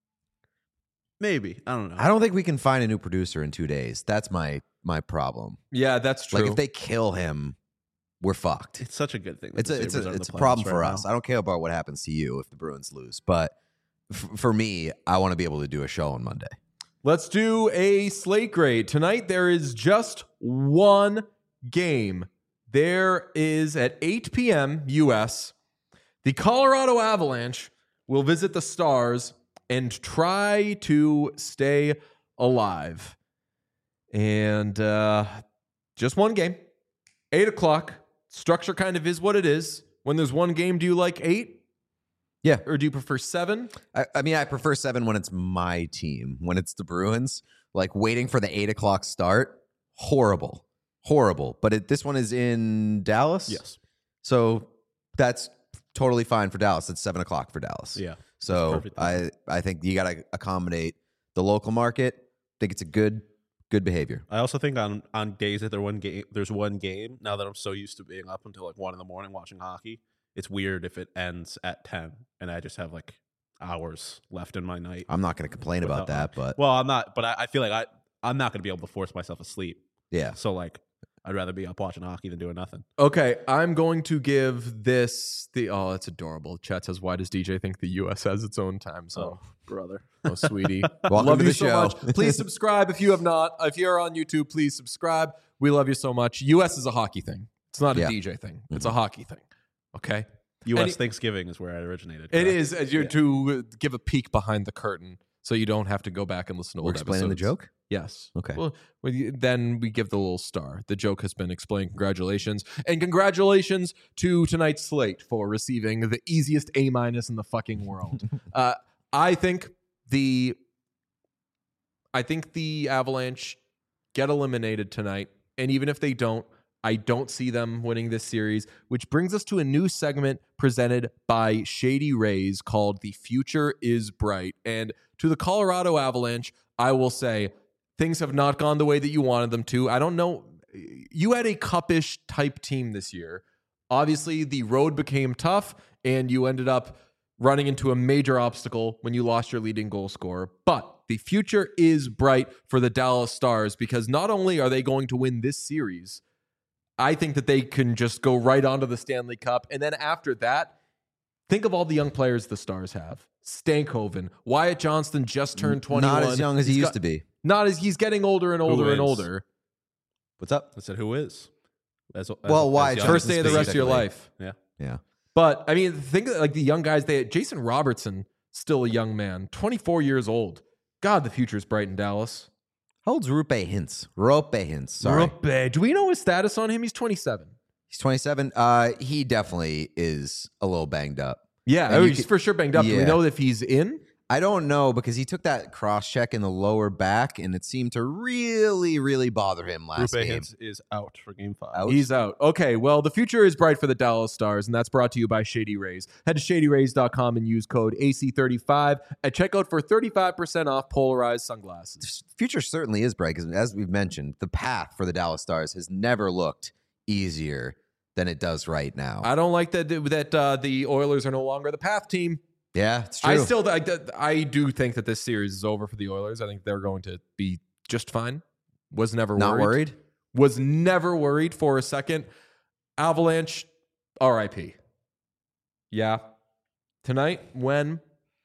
maybe I don't know. I don't think we can find a new producer in two days. That's my my problem. yeah, that's true. Like if they kill him, we're fucked. It's such a good thing. that It's the a it's Sabres a are in it's a the problem playoffs for right us. now. I don't care about what happens to you if the Bruins lose, but f- for me, I want to be able to do a show on Monday. Let's do a slate grade. Tonight, there is just one game. There is at eight p.m. U S, the Colorado Avalanche will visit the Stars and try to stay alive. And uh, just one game. eight o'clock. Structure kind of is what it is. When there's one game, do you like eight? Yeah. Or do you prefer seven? I, I mean, I prefer seven when it's my team. When it's the Bruins, like waiting for the eight o'clock start, horrible, horrible. But it, this one is in Dallas. Yes. So that's totally fine for Dallas. It's seven o'clock for Dallas. Yeah. So perfect. I, I think you got to accommodate the local market. I think it's a good, good behavior. I also think on on days that there one game, there's one game. Now that I'm so used to being up until like one in the morning watching hockey, it's weird if it ends at ten and I just have like hours left in my night. I'm not going to complain about Without- that, but Well, I'm not, but I, I feel like I I'm not going to be able to force myself to sleep. yeah. So like, I'd rather be up watching hockey than doing nothing. Okay, I'm going to give this the oh, that's adorable. Chat says, "Why does D J think the U S has its own time zone?" brother. Oh, sweetie, Welcome love to you the so show. much. Please subscribe if you have not. If you're on YouTube, please subscribe. We love you so much. U S is a hockey thing. It's not a Yeah. D J thing. It's a hockey thing. Okay, U S Any- Thanksgiving is where I originated. it correct? is as you to give a peek behind the curtain, so you don't have to go back and listen to We're old explaining the episodes. joke. Yes. Okay. Well, well, you- then we give the little star. The joke has been explained. Congratulations. And congratulations to tonight's slate for receiving the easiest A minus in the fucking world. uh, I think the I think the Avalanche get eliminated tonight. And even if they don't, I don't see them winning this series, which brings us to a new segment presented by Shady Rays called The Future is Bright. And to the Colorado Avalanche, I will say things have not gone the way that you wanted them to. I don't know. You had a cupish type team this year. Obviously, the road became tough, and you ended up running into a major obstacle when you lost your leading goal scorer. But the future is bright for the Dallas Stars because not only are they going to win this series, I think that they can just go right onto the Stanley Cup. And then after that, think of all the young players the Stars have. Stankoven, Wyatt Johnston just turned twenty-one. Not as young as he He's used got- to be. Not as he's getting older and older and is? older. What's up? I said, who is? As, as, Well, why? as young First as day of the this rest of your Basically. life. Yeah. Yeah. But I mean, think of, like the young guys. They had Jason Robertson, still a young man, twenty-four years old. God, the future is bright in Dallas. How old's Rupe Hintz? Rupe Hintz. Sorry. Ruppe. Do we know his status on him? He's twenty-seven. He's twenty-seven. Uh, he definitely is a little banged up. Yeah, And oh, you he's could- for sure banged up. Do we yeah. know if he's in? I don't know because he took that cross check in the lower back, and it seemed to really, really bother him last Rupe game. Hintz is out for game five. Out? He's out. Okay, well, the future is bright for the Dallas Stars, and that's brought to you by Shady Rays. Head to shady rays dot com and use code A C thirty-five at checkout for thirty-five percent off polarized sunglasses. The future certainly is bright because, as we've mentioned, the path for the Dallas Stars has never looked easier than it does right now. I don't like that that uh, the Oilers are no longer the path team. yeah, it's true. I still, I, I do think that this series is over for the Oilers. I think they're going to be just fine. Was never not worried. worried. Was never worried for a second. Avalanche, R I P. Yeah. Tonight, when?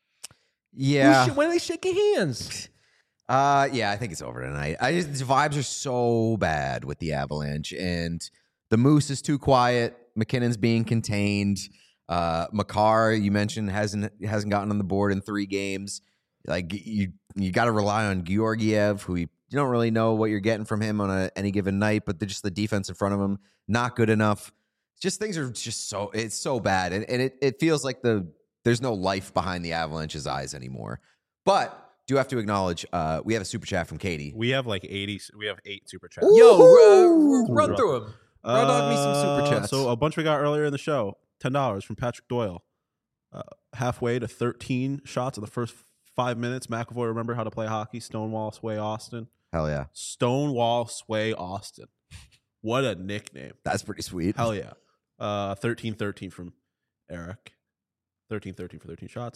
Yeah. Who sh- when are they shaking hands? Uh, yeah, I think it's over tonight. I just the vibes are so bad with the Avalanche, and the Moose is too quiet. McKinnon's being contained. Uh, Makar, you mentioned, hasn't hasn't gotten on the board in three games. Like you, you got to rely on Georgiev, who you, you don't really know what you're getting from him on a, any given night. But just the defense in front of him, not good enough. Just things are just so it's so bad, and, and it it feels like the there's no life behind the Avalanche's eyes anymore. But do have to acknowledge, uh, we have a super chat from Katie. We have like eighty. We have eight super chats. Yo, Ooh. uh, run through them. Run dog me some super Uh, chats. So a bunch we got earlier in the show. Ten dollars from Patrick Doyle. Uh, halfway to thirteen shots in the first five minutes. McAvoy, remember how to play hockey. Stonewall Sway Austin. Hell yeah, Stonewall Sway Austin. What a nickname. that's pretty sweet. Hell yeah. Uh, thirteen thirteen from Eric. thirteen thirteen for thirteen shots.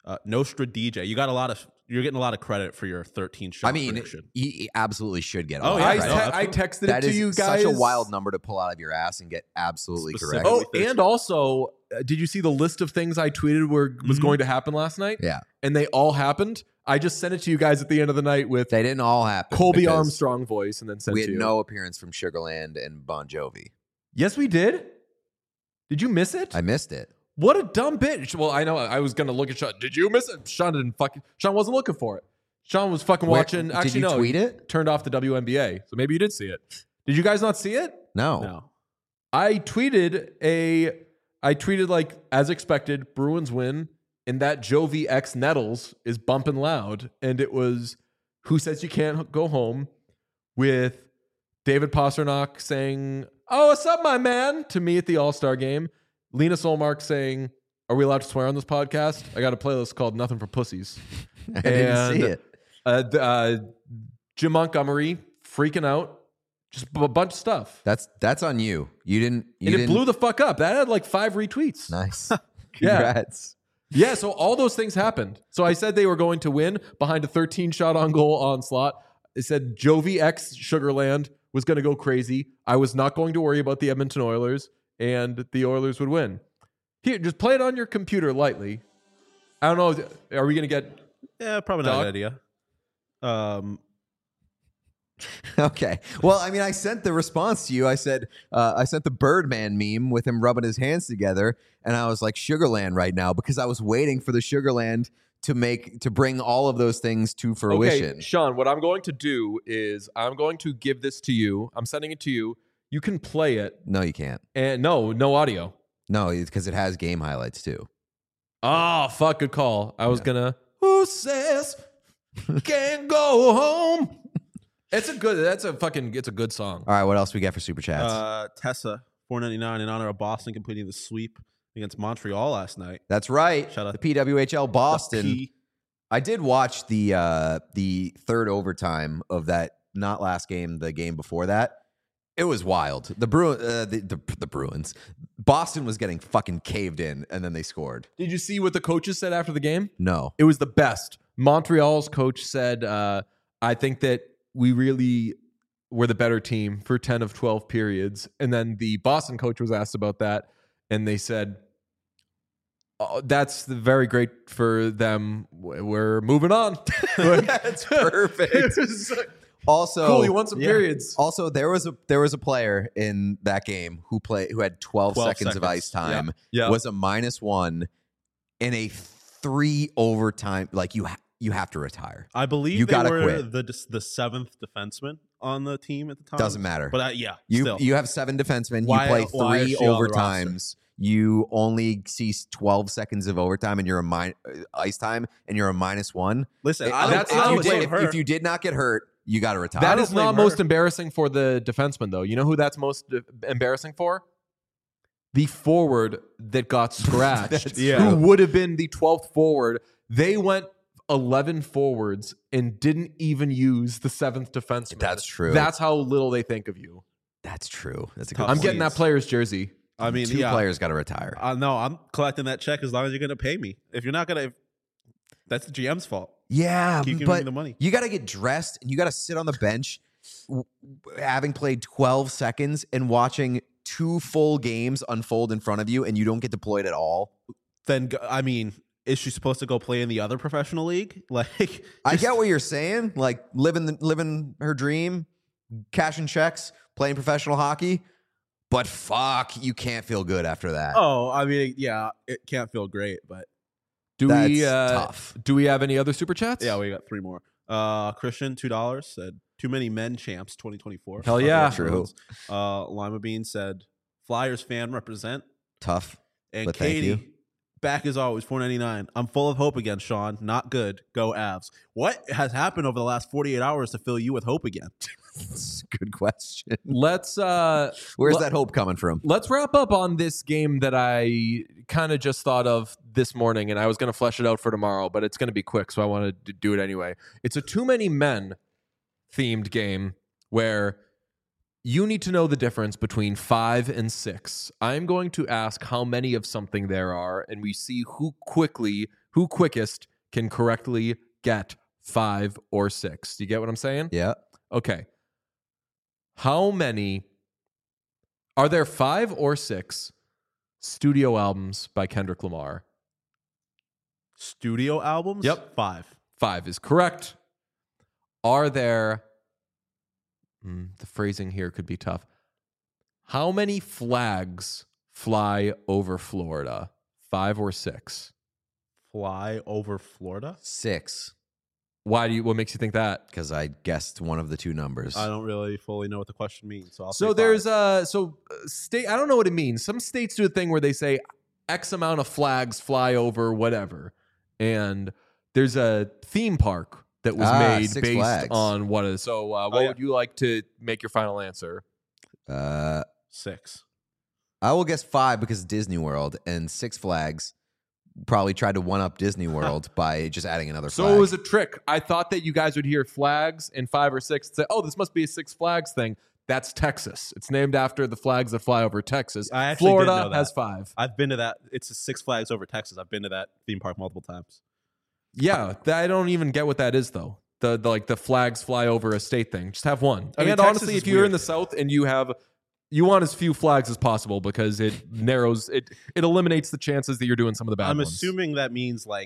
Uh, Nostra D J, you got a lot of you're getting a lot of credit for your thirteen shot I mean, prediction. he, he absolutely should get a Oh, lot yeah, of I, no, credit. te- that's I what- texted That it to is you guys. such a wild number to pull out of your ass and get absolutely correct. Specifically. Oh, and also, uh, did you see the list of things I tweeted were was Mhm. going to happen last night? Yeah, And they all happened. I just sent it to you guys at the end of the night with they didn't all happen. Colby because Armstrong voice, and then sent We to had you. no appearance from Sugarland and Bon Jovi. Yes, we did. Did you miss it? I missed it. What a dumb bitch. Well, I know I was gonna look at Sean. Did you miss it? Sean didn't fucking. Sean wasn't looking for it. Sean was fucking Where- watching. did Actually, you no. tweet it? Turned off the W N B A, so maybe you did see it. Did you guys not see it? No. No. I tweeted a. I tweeted like as expected, Bruins win, and that Jovi X Nettles is bumping loud, and it was "Who Says You Can't Go Home" with David Pasternak saying, "Oh, what's up, my man?" to me at the All Star game. Lena Solmark saying, "Are we allowed to swear on this podcast?" I got a playlist called "Nothing for Pussies." I didn't see And, it. Uh, th- uh, Jim Montgomery freaking out, just a bunch of stuff. That's that's on you. You didn't. You and it didn't, blew the fuck up. That had like five retweets. Nice. Yeah. Congrats. Yeah, so all those things happened. So I said they were going to win behind a thirteen shot on goal onslaught. It said Jovi X Sugarland was going to go crazy. I was not going to worry about the Edmonton Oilers, and the Oilers would win. Here, just play it on your computer lightly. I don't know. Are we going to get... Yeah, probably not Doc? a good idea. Um, Okay. Well, I mean, I sent the response to you. I said, uh, I sent the Birdman meme with him rubbing his hands together, and I was like, Sugarland right now, because I was waiting for the Sugarland to make to bring all of those things to fruition. Okay, Sean, what I'm going to do is I'm going to give this to you. I'm sending it to you. You can play it. No, you can't. And no, no audio. No, because it has game highlights too. Oh, fuck, good call. I was Yeah. gonna. Who says can't go home? It's a good. That's a fucking. It's a good song. All right, what else we got for super chats? uh, Tessa, four ninety-nine in honor of Boston completing the sweep against Montreal last night. That's right. shout out the P W H L Boston. The P- I did watch the uh, the third overtime of that. Not last game, the game before that. It was wild. The Bru- uh, the, the the Bruins, Boston was getting fucking caved in, and then they scored. Did you see what the coaches said after the game? No, It was the best. Montreal's coach said, uh, "I think that we really were the better team for ten of twelve periods." And then the Boston coach was asked about that, and they said, oh, "That's very great for them. We're moving on." That's perfect. It was like, Also, cool. You won some yeah. periods. Also, there was a there was a player in that game who play who had twelve, twelve seconds, of seconds. ice time. Yeah. Was a minus one in a three overtime. Like you, ha- you have to retire. I believe You they gotta were quit. the the seventh defenseman on the team at the time. Doesn't matter. But uh, yeah, You still. you have seven defensemen. Why- you play why is three she on the overtimes. You only see twelve seconds of overtime, and you're a min- uh, ice time, and you're a minus one. Listen, If- I don't, that's if, I not you don't what did, blame if, her. if you did not get hurt, you got to retire. That don't is not blame most her. embarrassing for the defenseman, though. You know who that's most uh, embarrassing for? The forward that got scratched, That's who true. would have been the twelfth forward. They went eleven forwards and didn't even use the seventh defenseman. That's true. That's how little they think of you. That's true. That's a good Tough I'm point. getting that player's jersey. I mean, Two yeah, players got to retire. Uh, no, I'm collecting that check as long as you're going to pay me. If you're not going to, that's the G M's fault. Yeah, Keep giving but me the money. you got to get dressed and you got to sit on the bench, w- having played twelve seconds and watching two full games unfold in front of you, and you don't get deployed at all. Then go, I mean, is she supposed to go play in the other professional league? Like, I just- get what you're saying, like living the, living her dream, cashing checks, playing professional hockey, but fuck, you can't feel good after that. Oh, I mean, yeah, it can't feel great, but Do That's we? Uh, tough. Do we have any other super chats? yeah, we got three more. Uh, Christian, two dollars said too many men champs twenty twenty-four. Hell yeah. True. Uh, Lima Bean said Flyers fan represent, Tough. and But thank Katie. you. Back as always, four ninety-nine. I'm full of hope again, Sean. Not good. Go Avs. What has happened over the last forty-eight hours to fill you with hope again? Good question. Let's. Uh, Where's Well- that hope coming from? Let's wrap up on this game that I kind of just thought of this morning, and I was going to flesh it out for tomorrow, but it's going to be quick, so I wanted to do it anyway. It's a too many men themed game where you need to know the difference between five and six. I'm going to ask how many of something there are, and we see who quickly Who quickest can correctly get five or six? Do you get what I'm saying? Yeah. Okay. How many are there five or six studio albums by Kendrick Lamar? Studio albums? Yep. Five. Five is correct. Are there, mm, the phrasing here could be tough. How many flags fly over Florida? Five or six? Fly over Florida? Six, Why do you, what makes you think that? because I guessed one of the two numbers. I don't really fully know what the question means. So I'll So say there's five. uh so uh, state I don't know what it means. Some states do a thing where they say X amount of flags fly over whatever. And there's a theme park that was Ah, made Six based Flags. on what is. So uh, what Oh, yeah. would you like to make your final answer? Uh, Six. I will guess five because Disney World and Six Flags probably tried to one up Disney World by just adding another So flag. it was a trick. I thought that you guys would hear flags and five or six and say, "Oh, this must be a Six Flags thing." That's Texas. It's named after the flags that fly over Texas. I actually didn't Florida know that. has five. I've been to that. It's a Six Flags over Texas. I've been to that theme park multiple times. Yeah, th- I don't even get what that is though. The, the like the flags fly over a state thing. Just have one. I mean, and Texas honestly, is if you're in weird. the South and you have, you want as few flags as possible because it narrows it. It eliminates the chances that you're doing some of the bad I'm ones. assuming that means like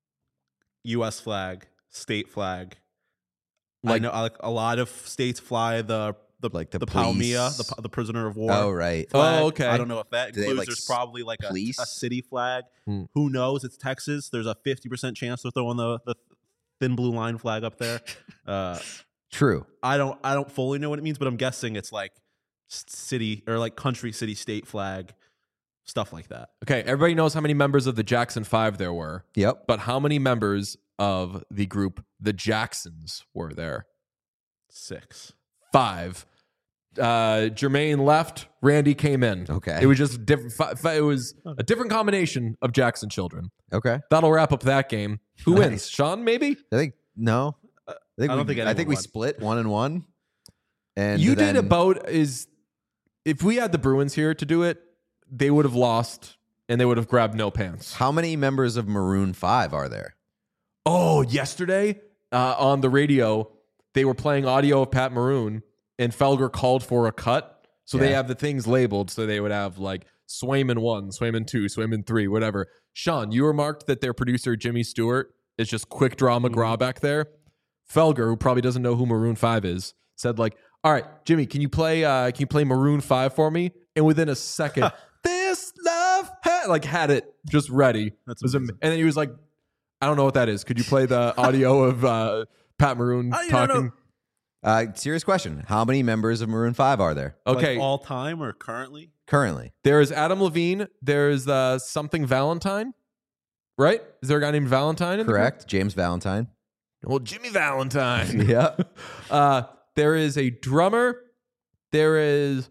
U S flag, state flag. Like, I Like- know like a lot of states fly the the Like the the Palmia, police. the, the prisoner of war. Oh, right. flag. Oh, okay. I don't know if that Do they have, includes. like, There's s- probably like a, police? a city flag. Hmm. Who knows? It's Texas. There's a fifty percent chance they're throwing the the thin blue line flag up there. Uh, True. I don't I don't fully know what it means, but I'm guessing it's like s- city or like country, city, state flag, stuff like that. Okay, everybody knows how many members of the Jackson Five there were, Yep. but how many members of the group the Jacksons were there? Six. Five. Uh, Jermaine left. Randy came in. Okay. It was just different. fi- fi- It was a different combination of Jackson children. Okay. That'll wrap up that game. Who Nice. wins? Sean, maybe? I think no. I think I don't we, think I think anyone we won. split one and one. And You then, did about is if we had the Bruins here to do it, they would have lost and they would have grabbed no pants. How many members of Maroon Five are there? Oh, yesterday uh, on the radio, they were playing audio of Pat Maroon, and Felger called for a cut. So they Yeah. have the things labeled. So they would have like Swayman one, Swayman two, Swayman three, whatever. Sean, you remarked that their producer, Jimmy Stewart, is just quick draw McGraw back there. Felger, who probably doesn't know who Maroon five is, said like, all right, Jimmy, can you play uh, can you play Maroon five for me? And within a second, this love ha-, like had it just ready. That's It was am- amazing. and then he was like, I don't know what that is. Could you play the audio of uh, Pat Maroon I don't know. talking? Uh, serious question. How many members of Maroon Five are there Okay, Like all time or currently? currently? there is Adam Levine. There's uh, something Valentine, right? Is there a guy named Valentine? In the group? Correct. James Valentine. Well, Jimmy Valentine. Yeah. Uh, there is a drummer. There is.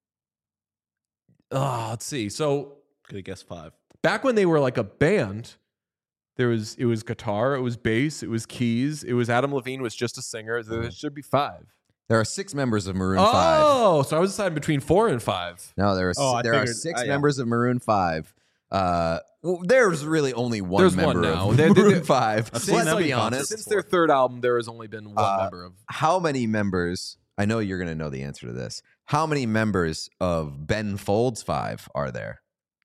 Oh, let's see. So Could have guessed five. back when they were like a band, there was it was guitar, it was bass, it was keys, it was Adam Levine was just a singer. There should be five. There are six members of Maroon Five. Oh, so I was deciding between four and five. No, there are Oh, I there are figured- six uh, yeah. members of Maroon Five. Uh, well, there's really only one There's member one now. of They- they- Maroon they- Five. I've seen Let's them be in concert honest. Since their third album, there has only been one Uh, member of. How many members? I know you're going to know the answer to this. How many members of Ben Folds Five are there?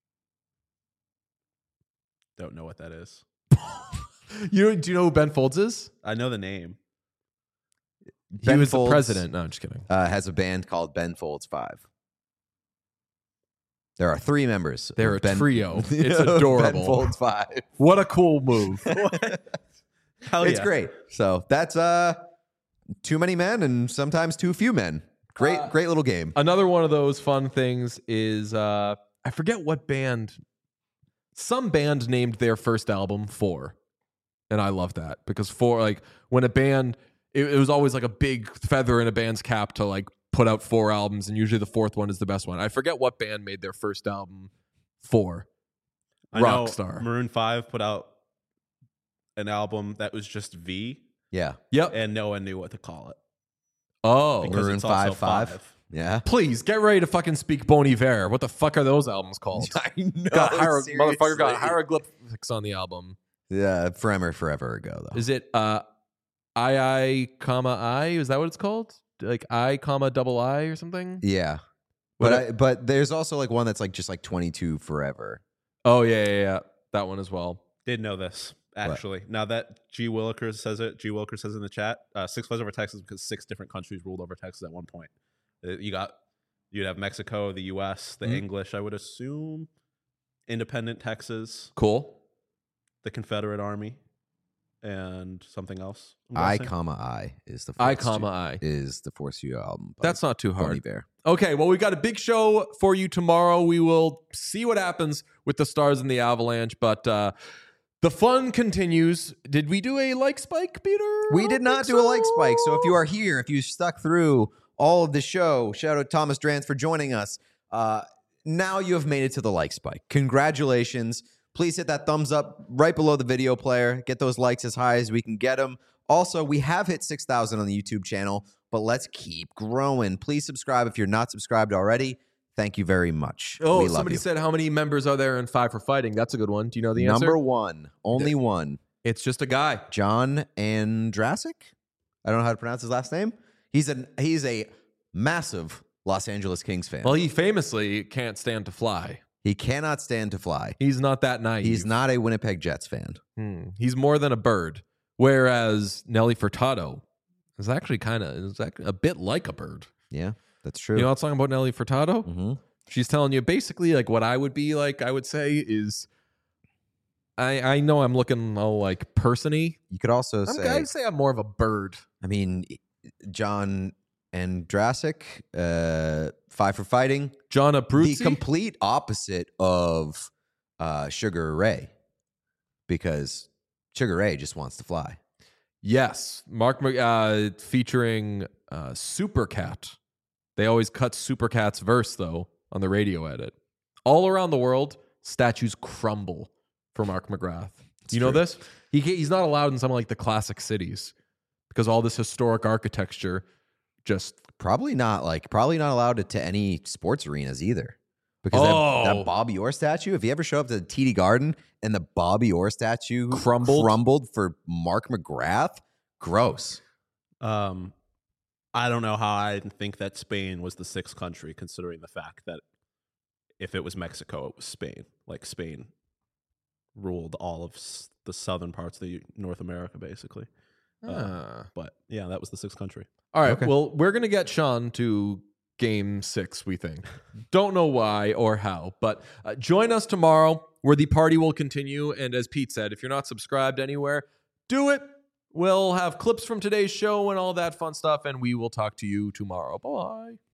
Don't know what that is. You do you know who Ben Folds is? I know the name. He Ben was Folds, the president. No, I'm just kidding. Uh, has a band called Ben Folds Five. There are three members. They're of a Ben, trio. It's Ben adorable. Folds Five. What a cool move. Hell It's yeah. great. So that's uh, too many men and sometimes too few men. Great, Uh, great little game. Another one of those fun things is uh, I forget what band. Some band named their first album Four, and I love that because Four, like when a band, it, it was always like a big feather in a band's cap to like put out four albums, and usually the fourth one is the best one. I forget what band made their first album Four. I know Rockstar. Maroon five put out an album that was just V, Yeah. Yep. and no one knew what to call it. Oh, Because Maroon it's also five, five. five. Yeah. please get ready to fucking speak Bon Iver. What the fuck are those albums called? I know. got hier- seriously. motherfucker got hieroglyphics on the album. Yeah, forever, forever ago though. Is it uh, I I comma I? Is that what it's called? Like I comma double I or something? Yeah, What but a- I, but there's also like one that's like just like twenty-two forever. Oh yeah, yeah, yeah. That one as well. Did know this actually. Now that G Willikers says it, G Willikers says in the chat, uh, six flies over Texas because six different countries ruled over Texas at one point. Uh, You got you'd have Mexico, the U S, the Mhm. English. I would assume independent Texas, Cool. the Confederate Army, and something else. I'm I guessing. comma I is the I Force comma Stu- I. is the Force You album. by That's not too Bon hard. Iver. Okay, well, we got a big show for you tomorrow. We will see what happens with the Stars and the Avalanche, but uh, the fun continues. Did we do a like spike, Peter? We I did don't not think do a like spike. So if you are here, if you stuck through all of the show, shout out Thomas Drance for joining us. Uh, now you have made it to the like spike. Congratulations. Please hit that thumbs up right below the video player. Get those likes as high as we can get them. Also, we have hit six thousand on the YouTube channel, but let's keep growing. Please subscribe if you're not subscribed already. Thank you very much. Oh, we love somebody you. said how many members are there in Five for Fighting? That's a good one. Do you know the answer? Number one, only one, It's just a guy. John Andrasic. I don't know how to pronounce his last name. He's a he's a massive Los Angeles Kings fan. Well, he famously can't stand to fly. He cannot stand to fly. He's not that naive. He's not a Winnipeg Jets fan. Hmm. He's more than a bird. Whereas Nelly Furtado is actually kind of is act- a bit like a bird. Yeah, that's true. You know what's talking about Nelly Furtado? hmm She's telling you basically like what I would be like. I would say is, I I know I'm looking all like person-y. You could also I'm, say, I'd say I'm more of a bird. I mean, John Andrasic, uh, five for fighting. John The Abruzzi. complete opposite of uh, Sugar Ray, because Sugar Ray just wants to fly. Yes, Mark Mc- uh, featuring uh, Supercat. They always cut Supercat's verse though on the radio edit. All around the world, statues crumble for Mark McGrath. you know true. this? He ca- he's not allowed in some of like the classic cities because all this historic architecture just Probably not like probably not allowed to, to any sports arenas either. Because Oh. that, that Bobby Orr statue, if you ever show up to the T D Garden and the Bobby Orr statue Crumbled? crumbled for Mark McGrath, gross. Um, I don't know how I think that Spain was the sixth country, considering the fact that if it was Mexico, it was Spain. Like Spain ruled all of s- the southern parts of the North America, basically. Uh, Ah. but yeah, that was the sixth country. All right. Okay. Well, we're going to get Sean to game six, we think. Don't know why or how, but uh, join us tomorrow where the party will continue. And as Pete said, if you're not subscribed anywhere, do it. We'll have clips from today's show and all that fun stuff, and we will talk to you tomorrow. Bye.